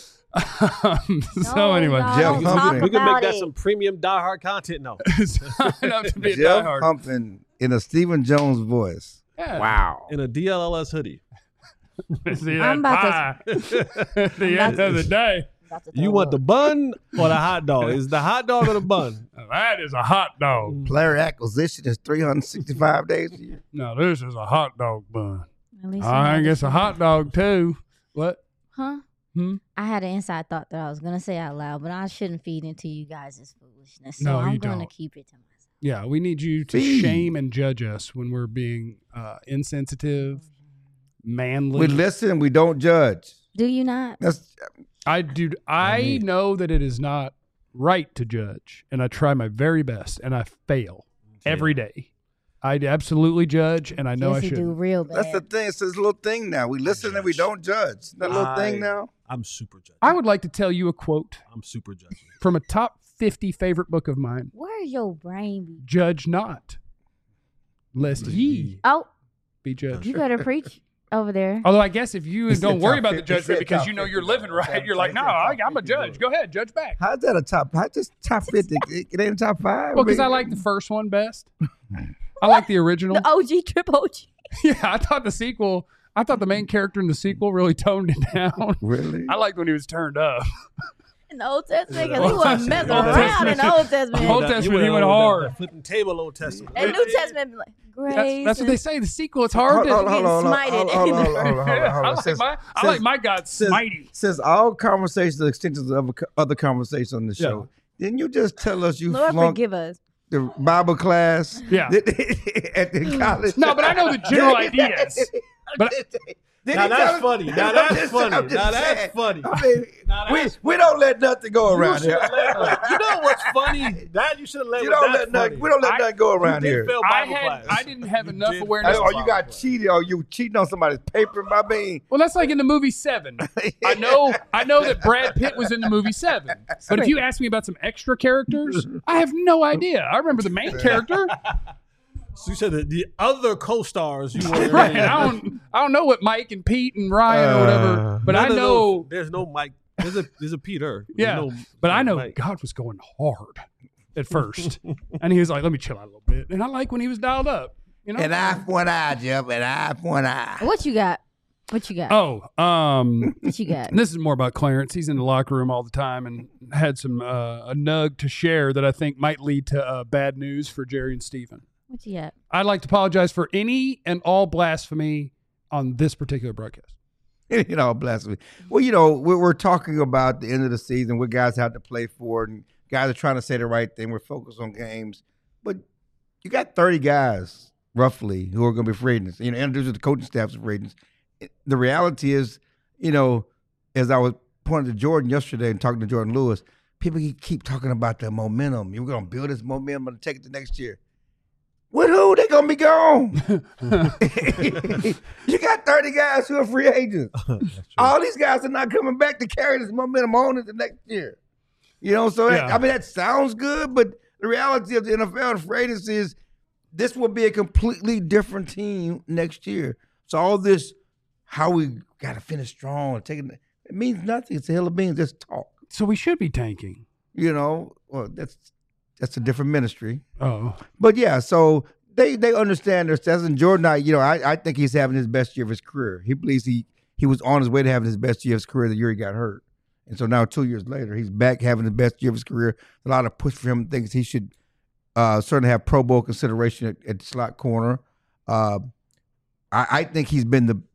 Um, so No, anyway, y'all Jeff don't Humphrey. talk We can about make that it. some premium diehard content now. sign up to be a Jeff diehard. Humping in a Stephen Jones voice. Yeah. Wow. In a D L L S hoodie. See I'm that about pie at the I'm end about of the day. About to You throw want up. the bun or the hot dog? Is the hot dog or the bun? That is a hot dog. Player acquisition is three hundred sixty-five days a year. No, this is a hot dog bun. At least you I had think the- it's a hot dog too. What? Huh? Hmm? I had an inside thought that I was gonna say out loud, but I shouldn't feed into you guys' foolishness. So No, I'm you gonna don't. keep it to myself. Yeah, we need you to Feed. shame and judge us when we're being uh, insensitive, manly. We listen, we don't judge. Do you not? That's I do. I know that it is not right to judge, and I try my very best, and I fail every day. I absolutely judge, and I know yes, I you should. do real bad. that's the thing. It's this little thing now. We listen and we don't judge. That little I- thing now. I'm super judgy. I would like to tell you a quote I'm super judgy. from a top fifty favorite book of mine: Where's your brain be? "Judge not, lest ye Oh, be judged." you better preach over there. Although I guess if you He said don't worry top about the fifty. He judgment said because top you know fifty, you're living bro. right, you're like, He no, said top I, I'm a fifty, judge. bro. Go ahead, judge back. How's that a top? How just top fifty? It, it ain't top five. Well, because I like the first one best. I like the original. The O G trip O G. Yeah, I thought the sequel. I thought the main character in the sequel really toned it down. Really. I liked when he was turned up. In the Old Testament, because he Old wasn't messing Old around in the Old Testament. Old That- Testament, you he went on hard. that Flipping table Old Testament. And New Testament, be like, grace. That's, that's what they and- say. The sequel, it's hard Hold, to. hold, hold, on, hold, on, smited. hold, on, hold, on, hold, on, hold, on, hold, on, hold I on. like Since- my, I since- like my God since- smitey. Since all conversations are extensions of other conversations on the show, didn't you just tell us you Lord flunked forgive us. the Bible class? Yeah. at the college. No, but I know the general ideas. But Did Now he that's tell- funny. Now I'm that's just- funny. I'm just Now that's saying. funny. I mean, Now we, that's we don't let nothing go You around here. should've led- you know what's funny? That you should have led You with don't that let nothing, funny. we don't let I- nothing go around You did here. fail I Bible had, class. I didn't have You enough did awareness. fail Or you Bible got class. cheated, or you cheating on somebody's paper. I mean, Well, that's like in the movie Seven. I know, I know that Brad Pitt was in the movie Seven, but if you ask me about some extra characters, I have no idea. I remember the main character. So you said that the other co-stars you were Right. I don't I don't know what Mike and Pete and Ryan or whatever, but I None of know those- there's no Mike. There's a there's a Peter. There's yeah, no- but I no know Mike. God was going hard at first, and he was like, "Let me chill out a little bit." And I like when he was dialed up. You know, An eye for an eye, Jeff. An eye for an eye. What you got? What you got? oh, um, What you got? this is more about Clarence. He's in the locker room all the time and had some uh, a nug to share that I think might lead to uh, bad news for Jerry and Stephen. What you got? I'd like to apologize for any and all blasphemy on this particular broadcast. You know, blasphemy. Well, you know, we're, we're talking about the end of the season, what guys have to play for, and guys are trying to say the right thing. We're focused on games, but you got thirty guys roughly who are going to be free agents. You know, introduced the coaching staffs of free agents. The reality is, you know, as I was pointing to Jordan yesterday and talking to Jordan Lewis, people keep talking about the momentum. You're going to build this momentum and take it to next year. With who? They gonna be gone. You got thirty guys who are free agents. All these guys are not coming back to carry this momentum on into next year. You know, so that, Yeah. I mean that sounds good, but the reality of the N F L and free agency is this will be a completely different team next year. So all this, how we got to finish strong and take it, it means nothing. It's a hill of beans. Just talk. So we should be tanking. You know, well that's that's a different ministry. Oh, But yeah, so they they understand their stats. And Jordan, I, you know, I, I think he's having his best year of his career. He believes he he was on his way to having his best year of his career the year he got hurt. And so now two years later, he's back having the best year of his career. A lot of push for him. Thinks he should uh, certainly have Pro Bowl consideration at, at slot corner. Uh, I, I think he's been the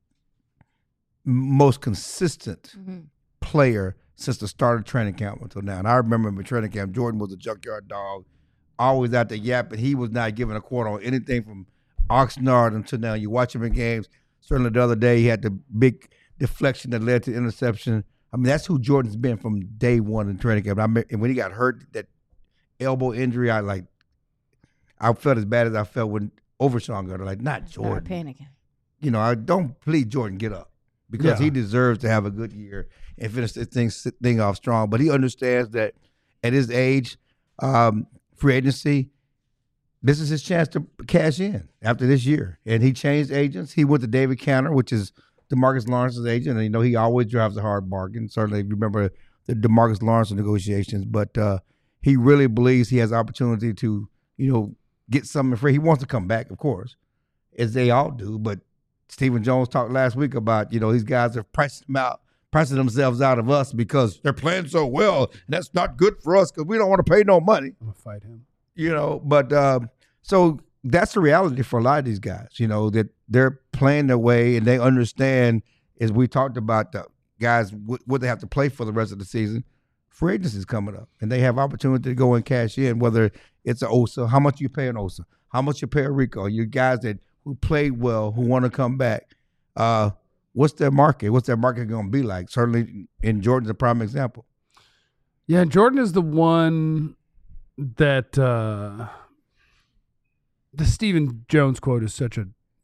most consistent Mm-hmm. player since the start of training camp until now. And I remember in training camp, Jordan was a junkyard dog, always out there yapping. He was not giving a quarter on anything from Oxnard until now. You watch him in games. Certainly the other day, he had the big deflection that led to interception. I mean, that's who Jordan's been from day one in training camp. I mean, and when he got hurt, that elbow injury, I like, I felt as bad as I felt when Overshawn got hurt. Like, not Started Jordan. panicking. You know, I don't please Jordan get up because Yeah. he deserves to have a good year and finish this thing, thing off strong. But he understands that at his age, um, free agency, this is his chance to cash in after this year. And he changed agents. He went to David Cantor, which is DeMarcus Lawrence's agent. And, you know, he always drives a hard bargain. Certainly, remember the DeMarcus Lawrence negotiations. But uh, he really believes he has opportunity to, you know, get something free. He wants to come back, of course, as they all do. But Stephen Jones talked last week about, you know, these guys are pricing them out, pricing themselves out of us because they're playing so well. And that's not good for us because we don't want to pay no money. I'm gonna fight him. You know, but uh, so that's the reality for a lot of these guys, you know, that they're playing their way and they understand, as we talked about, the guys, what, what they have to play for the rest of the season. Free agency is coming up and they have opportunity to go and cash in, whether it's an Osa, how much you pay an Osa, how much you pay a Rico, you guys that who played well, who want to come back. Uh, what's their market? What's their market going to be like? Certainly, in Jordan's a prime example. Yeah, Jordan is the one that uh, the Stephen Jones quote is such a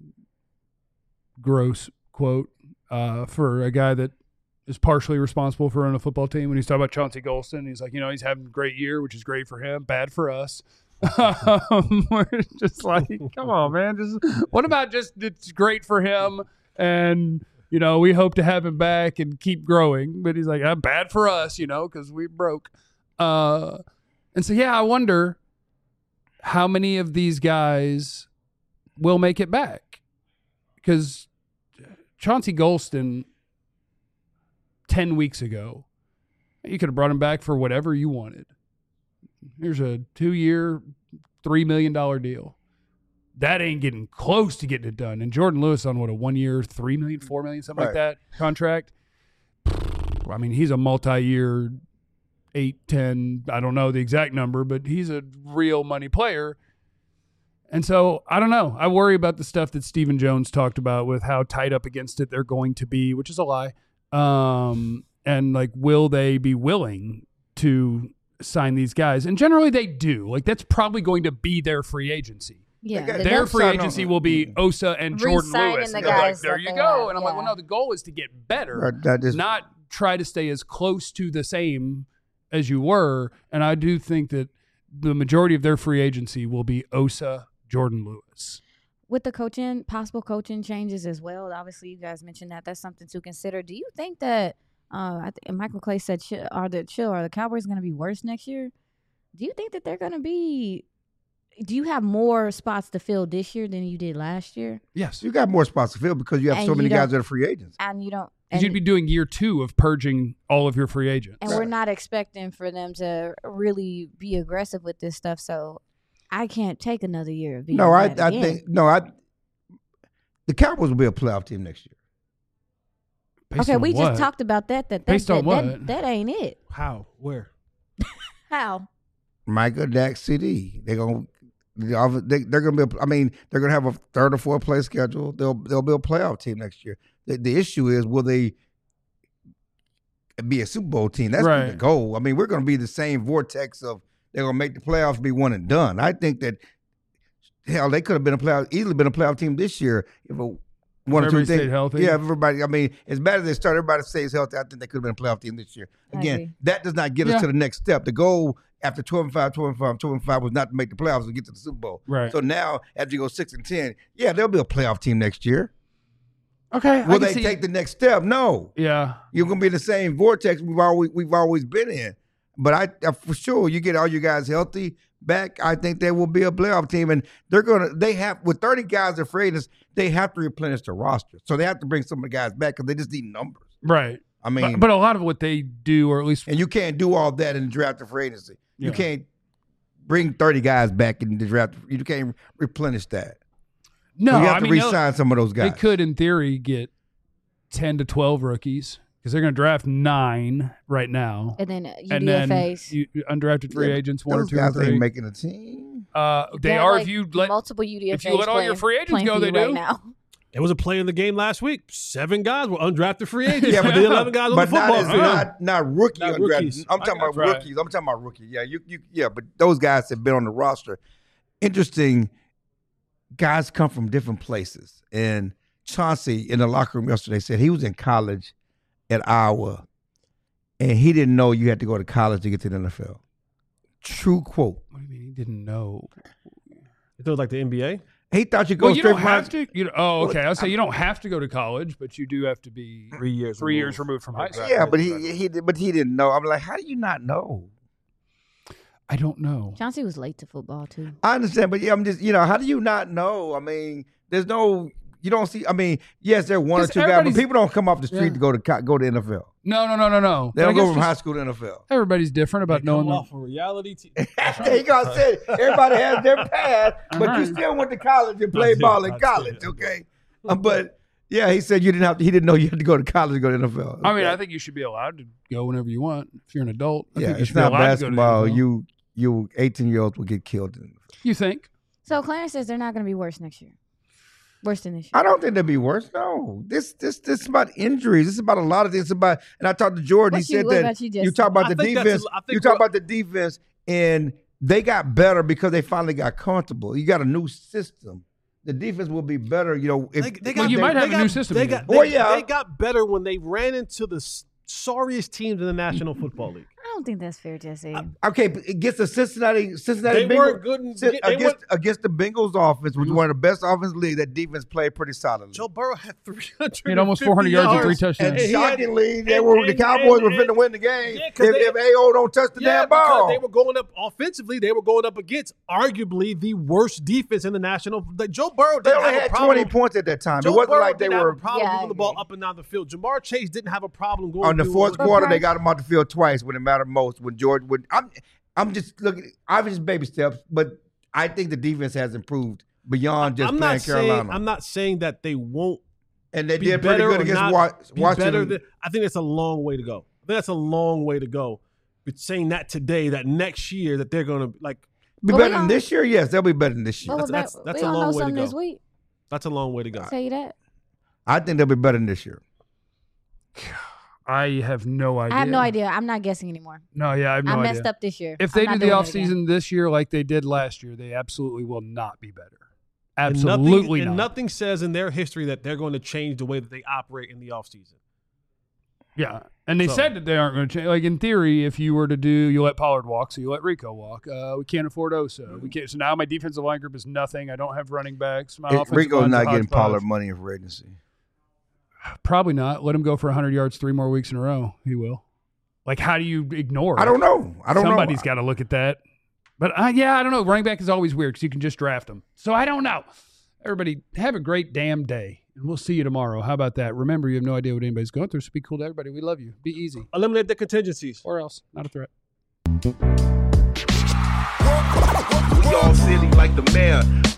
gross quote uh, for a guy that is partially responsible for running a football team. When he's talking about Chauncey Golston, he's like, you know, he's having a great year, which is great for him, bad for us. um, we're just like, come on, man. Just what about just it's great for him, and you know we hope to have him back and keep growing. But he's like, ah, bad for us, you know, because we broke. Uh, and so yeah, I wonder how many of these guys will make it back, because Chauncey Golston ten weeks ago, you could have brought him back for whatever you wanted. Here's a two-year, three million dollars deal. That ain't getting close to getting it done. And Jordan Lewis on what, a one-year, three million dollars, four million dollars, something Right. like that contract. I mean, he's a multi-year, eight, ten, I don't know the exact number, but he's a real money player. And so, I don't know. I worry about the stuff that Stephen Jones talked about with how tight up against it they're going to be, which is a lie. Um, and, like, will they be willing to sign these guys? And generally they do. Like, that's probably going to be their free agency. Yeah, They got- the Their next- free sign agency on- will be Osa and Jordan Re-signing Lewis. the And they're like, guys there that you they go. have, And I'm like, well, yeah. no, the goal is to get better, Right, that is- not try to stay as close to the same as you were. And I do think that the majority of their free agency will be Osa, Jordan Lewis. With the coaching, possible coaching changes as well. Obviously, you guys mentioned that. That's something to consider. Do you think that uh, I think Michael Clay said, chill, are the chill, are the Cowboys going to be worse next year? Do you think that they're going to be? Do you have more spots to fill this year than you did last year? Yes. You got more spots to fill because you have And so you many guys don't- that are free agents. And you don't. Because And, you'd be doing year two of purging all of your free agents. and we're not expecting for them to really be aggressive with this stuff. So I can't take another year of being No, I, bad I again. think no, I. The Cowboys will be a playoff team next year. Based Okay, on we what? just talked about that. That, that Based that, on what? That, that ain't it. How? Where? How? Micah, Dak, C D. They're gonna. They, they're going to be. A, I mean, they're going to have a third or fourth place schedule. They'll they'll be a playoff team next year. The, the issue is, will they be a Super Bowl team? That's Right. the goal. I mean, we're going to be the same vortex of they're going to make the playoffs, be one and done. I think that hell, they could have been a playoff, easily been a playoff team this year if a, one or two Everybody things. stayed healthy. Yeah, if everybody. I mean, as bad as they start, everybody stays healthy. I think they could have been a playoff team this year. I Again, agree. that does not get us Yeah. to the next step. The goal after twelve and five, twelve and five, twelve and five was not to make the playoffs and get to the Super Bowl. Right. So now, after you go six and ten, yeah, there'll be a playoff team next year. Okay. I Will can they see- take the next step? No. Yeah. You're gonna be in the same vortex we've always we've always been in. But I, I for sure, you get all you guys healthy back. I think they will be a playoff team, and they're gonna. They have with thirty guys that free agents, they have to replenish the roster. So they have to bring some of the guys back because they just need numbers. Right. I mean, But, but a lot of what they do, or at least and you can't do all that in the draft of free agency. You Yeah. can't bring thirty guys back in the draft. You can't replenish that. no, So you have I to mean they'll- re-sign some of those they guys. could, in theory, get ten to twelve rookies because they're going to draft nine right now, And then uh, and U D F then As. you, undrafted free Yeah, agents, one or Those two or guys three. ain't making a team. Uh, they Got, are like, if you let multiple U D F As if you let all your playing- free agents playing go, for they you do. right now. There was a play in the game last week. Seven guys were undrafted free agents. Yeah, for but the eleven guys on but the football not, field. not not rookie Not undrafted. rookies. I'm I talking got about you. Right. rookies. I'm talking about rookies. Yeah, you you yeah, but those guys have been on the roster. Interesting. Guys come from different places, and Chauncey in the locker room yesterday said he was in college at Iowa, and he didn't know you had to go to college to get to the N F L. True quote. What do you mean he didn't know? It was like the N B A. He thought you go Well, you straight don't from have high- to. You know, oh, okay. I'll say you don't have to go to college, but you do have to be Three years. three years removed from high school. Yeah, but he he did, but he didn't know. I'm like, how do you not know? I don't know. Chauncey was late to football too. I understand, but yeah, I'm just, you know, how do you not know? I mean, there's no, you don't see. I mean, yes, there are one or 'Cause two guys, but everybody's- people don't come off the street Yeah. to go to co- go to N F L. No, no, no, no, no. They But I don't go guess from high just school to N F L. everybody's different about They knowing. come The, off a reality T V. There you go. I said everybody has their path, but you Right. still went to college and played did, ball in I did, college, I okay? Um, but yeah, he said you didn't have to. He didn't know you had to go to college to go to N F L. I mean, Okay. I think you should be allowed to go whenever you want if you're an adult. I yeah, think you it's should be not allowed to go to the basketball. N F L. You you eighteen year olds will get killed in the N F L. You think? So Clarence says they're not going to be worse next year. Worse than this year. I don't think that'd be worse. No, this this this is about injuries. This is about a lot of things. It's about, and I talked to Jordan. What he you- said what that about you, you Justin? talk about I the think that's defense. a- I think You talk what- about the defense, and they got better because they finally got comfortable. You got a new system. The defense will be better. You know, if They, they Well, got, you they, might have they a new got- system They here. got, Well, they, yeah. they got better when they ran into the s- sorriest teams in the National Football League. I don't think that's fair, Jesse. okay, but against the Cincinnati Cincinnati They Bengals, weren't good in- Cin- they against weren't- against the Bengals offense, which was one of the best offense in the league. That defense played pretty solidly. Joe Burrow had three hundred. He had almost four hundred yards and three touchdowns. And And he had- shockingly, they and- were and- the Cowboys and- were finna and- win the game Yeah, if, 'cause they- if A O don't touch the Yeah, damn because ball. they were going up offensively. They were going up against arguably the worst defense in the national. Like Joe Burrow They didn't only have had a problem. twenty points at that time. Joe it wasn't Burrow like they didn't were have a problem Yeah, I moving the ball agree. up and down the field. Jamar Chase didn't have a problem going on the through- fourth But quarter. They Price- got him off the field twice when it mattered most. When George, when I'm, I'm just looking. Obviously, baby steps, but I think the defense has improved beyond just I'm playing not saying Carolina. I'm not saying that they won't and they be did pretty better good or against not Wa- be Washington. better than- I think that's a long way to go. I think that's a long way to go. But saying that today, that next year, that they're going to like, be Well, better we than don't- this year. Yes, they'll be better than this year. Well, that's- we're that's- back- that's we a don't long know way to something go. this week. that's a long way to go. I'll tell you that. I think they'll be better than this year. I have no idea. I have no idea. I'm not guessing anymore. No, yeah, I have no I idea. messed up this year. If I'm they not do the doing it again. offseason this year like they did last year, they absolutely will not be better. And Absolutely nothing, and not. nothing says in their history that they're going to change the way that they operate in the offseason. Yeah. And they So- said that they aren't going to change. Like, in theory, if you were to do, you let Pollard walk, so you let Rico walk. Uh, we can't afford Osa. We can't. So now my defensive line group is nothing. I don't have running backs. My It- offensive Rico's line's a not getting hodgepodge. Pollard money in free agency. Probably not. Let him go for one hundred yards three more weeks in a row. He will. Like, how do you ignore it? I don't know. I don't know. Somebody's got to look at that. But, uh, yeah, I don't know. Running back is always weird because you can just draft them. So I don't know. Everybody, have a great damn day. And we'll see you tomorrow. How about that? Remember, you have no idea what anybody's going through, so be cool to everybody. We love you. Be easy. Eliminate the contingencies. Or else. Not a threat. We all silly like the mayor.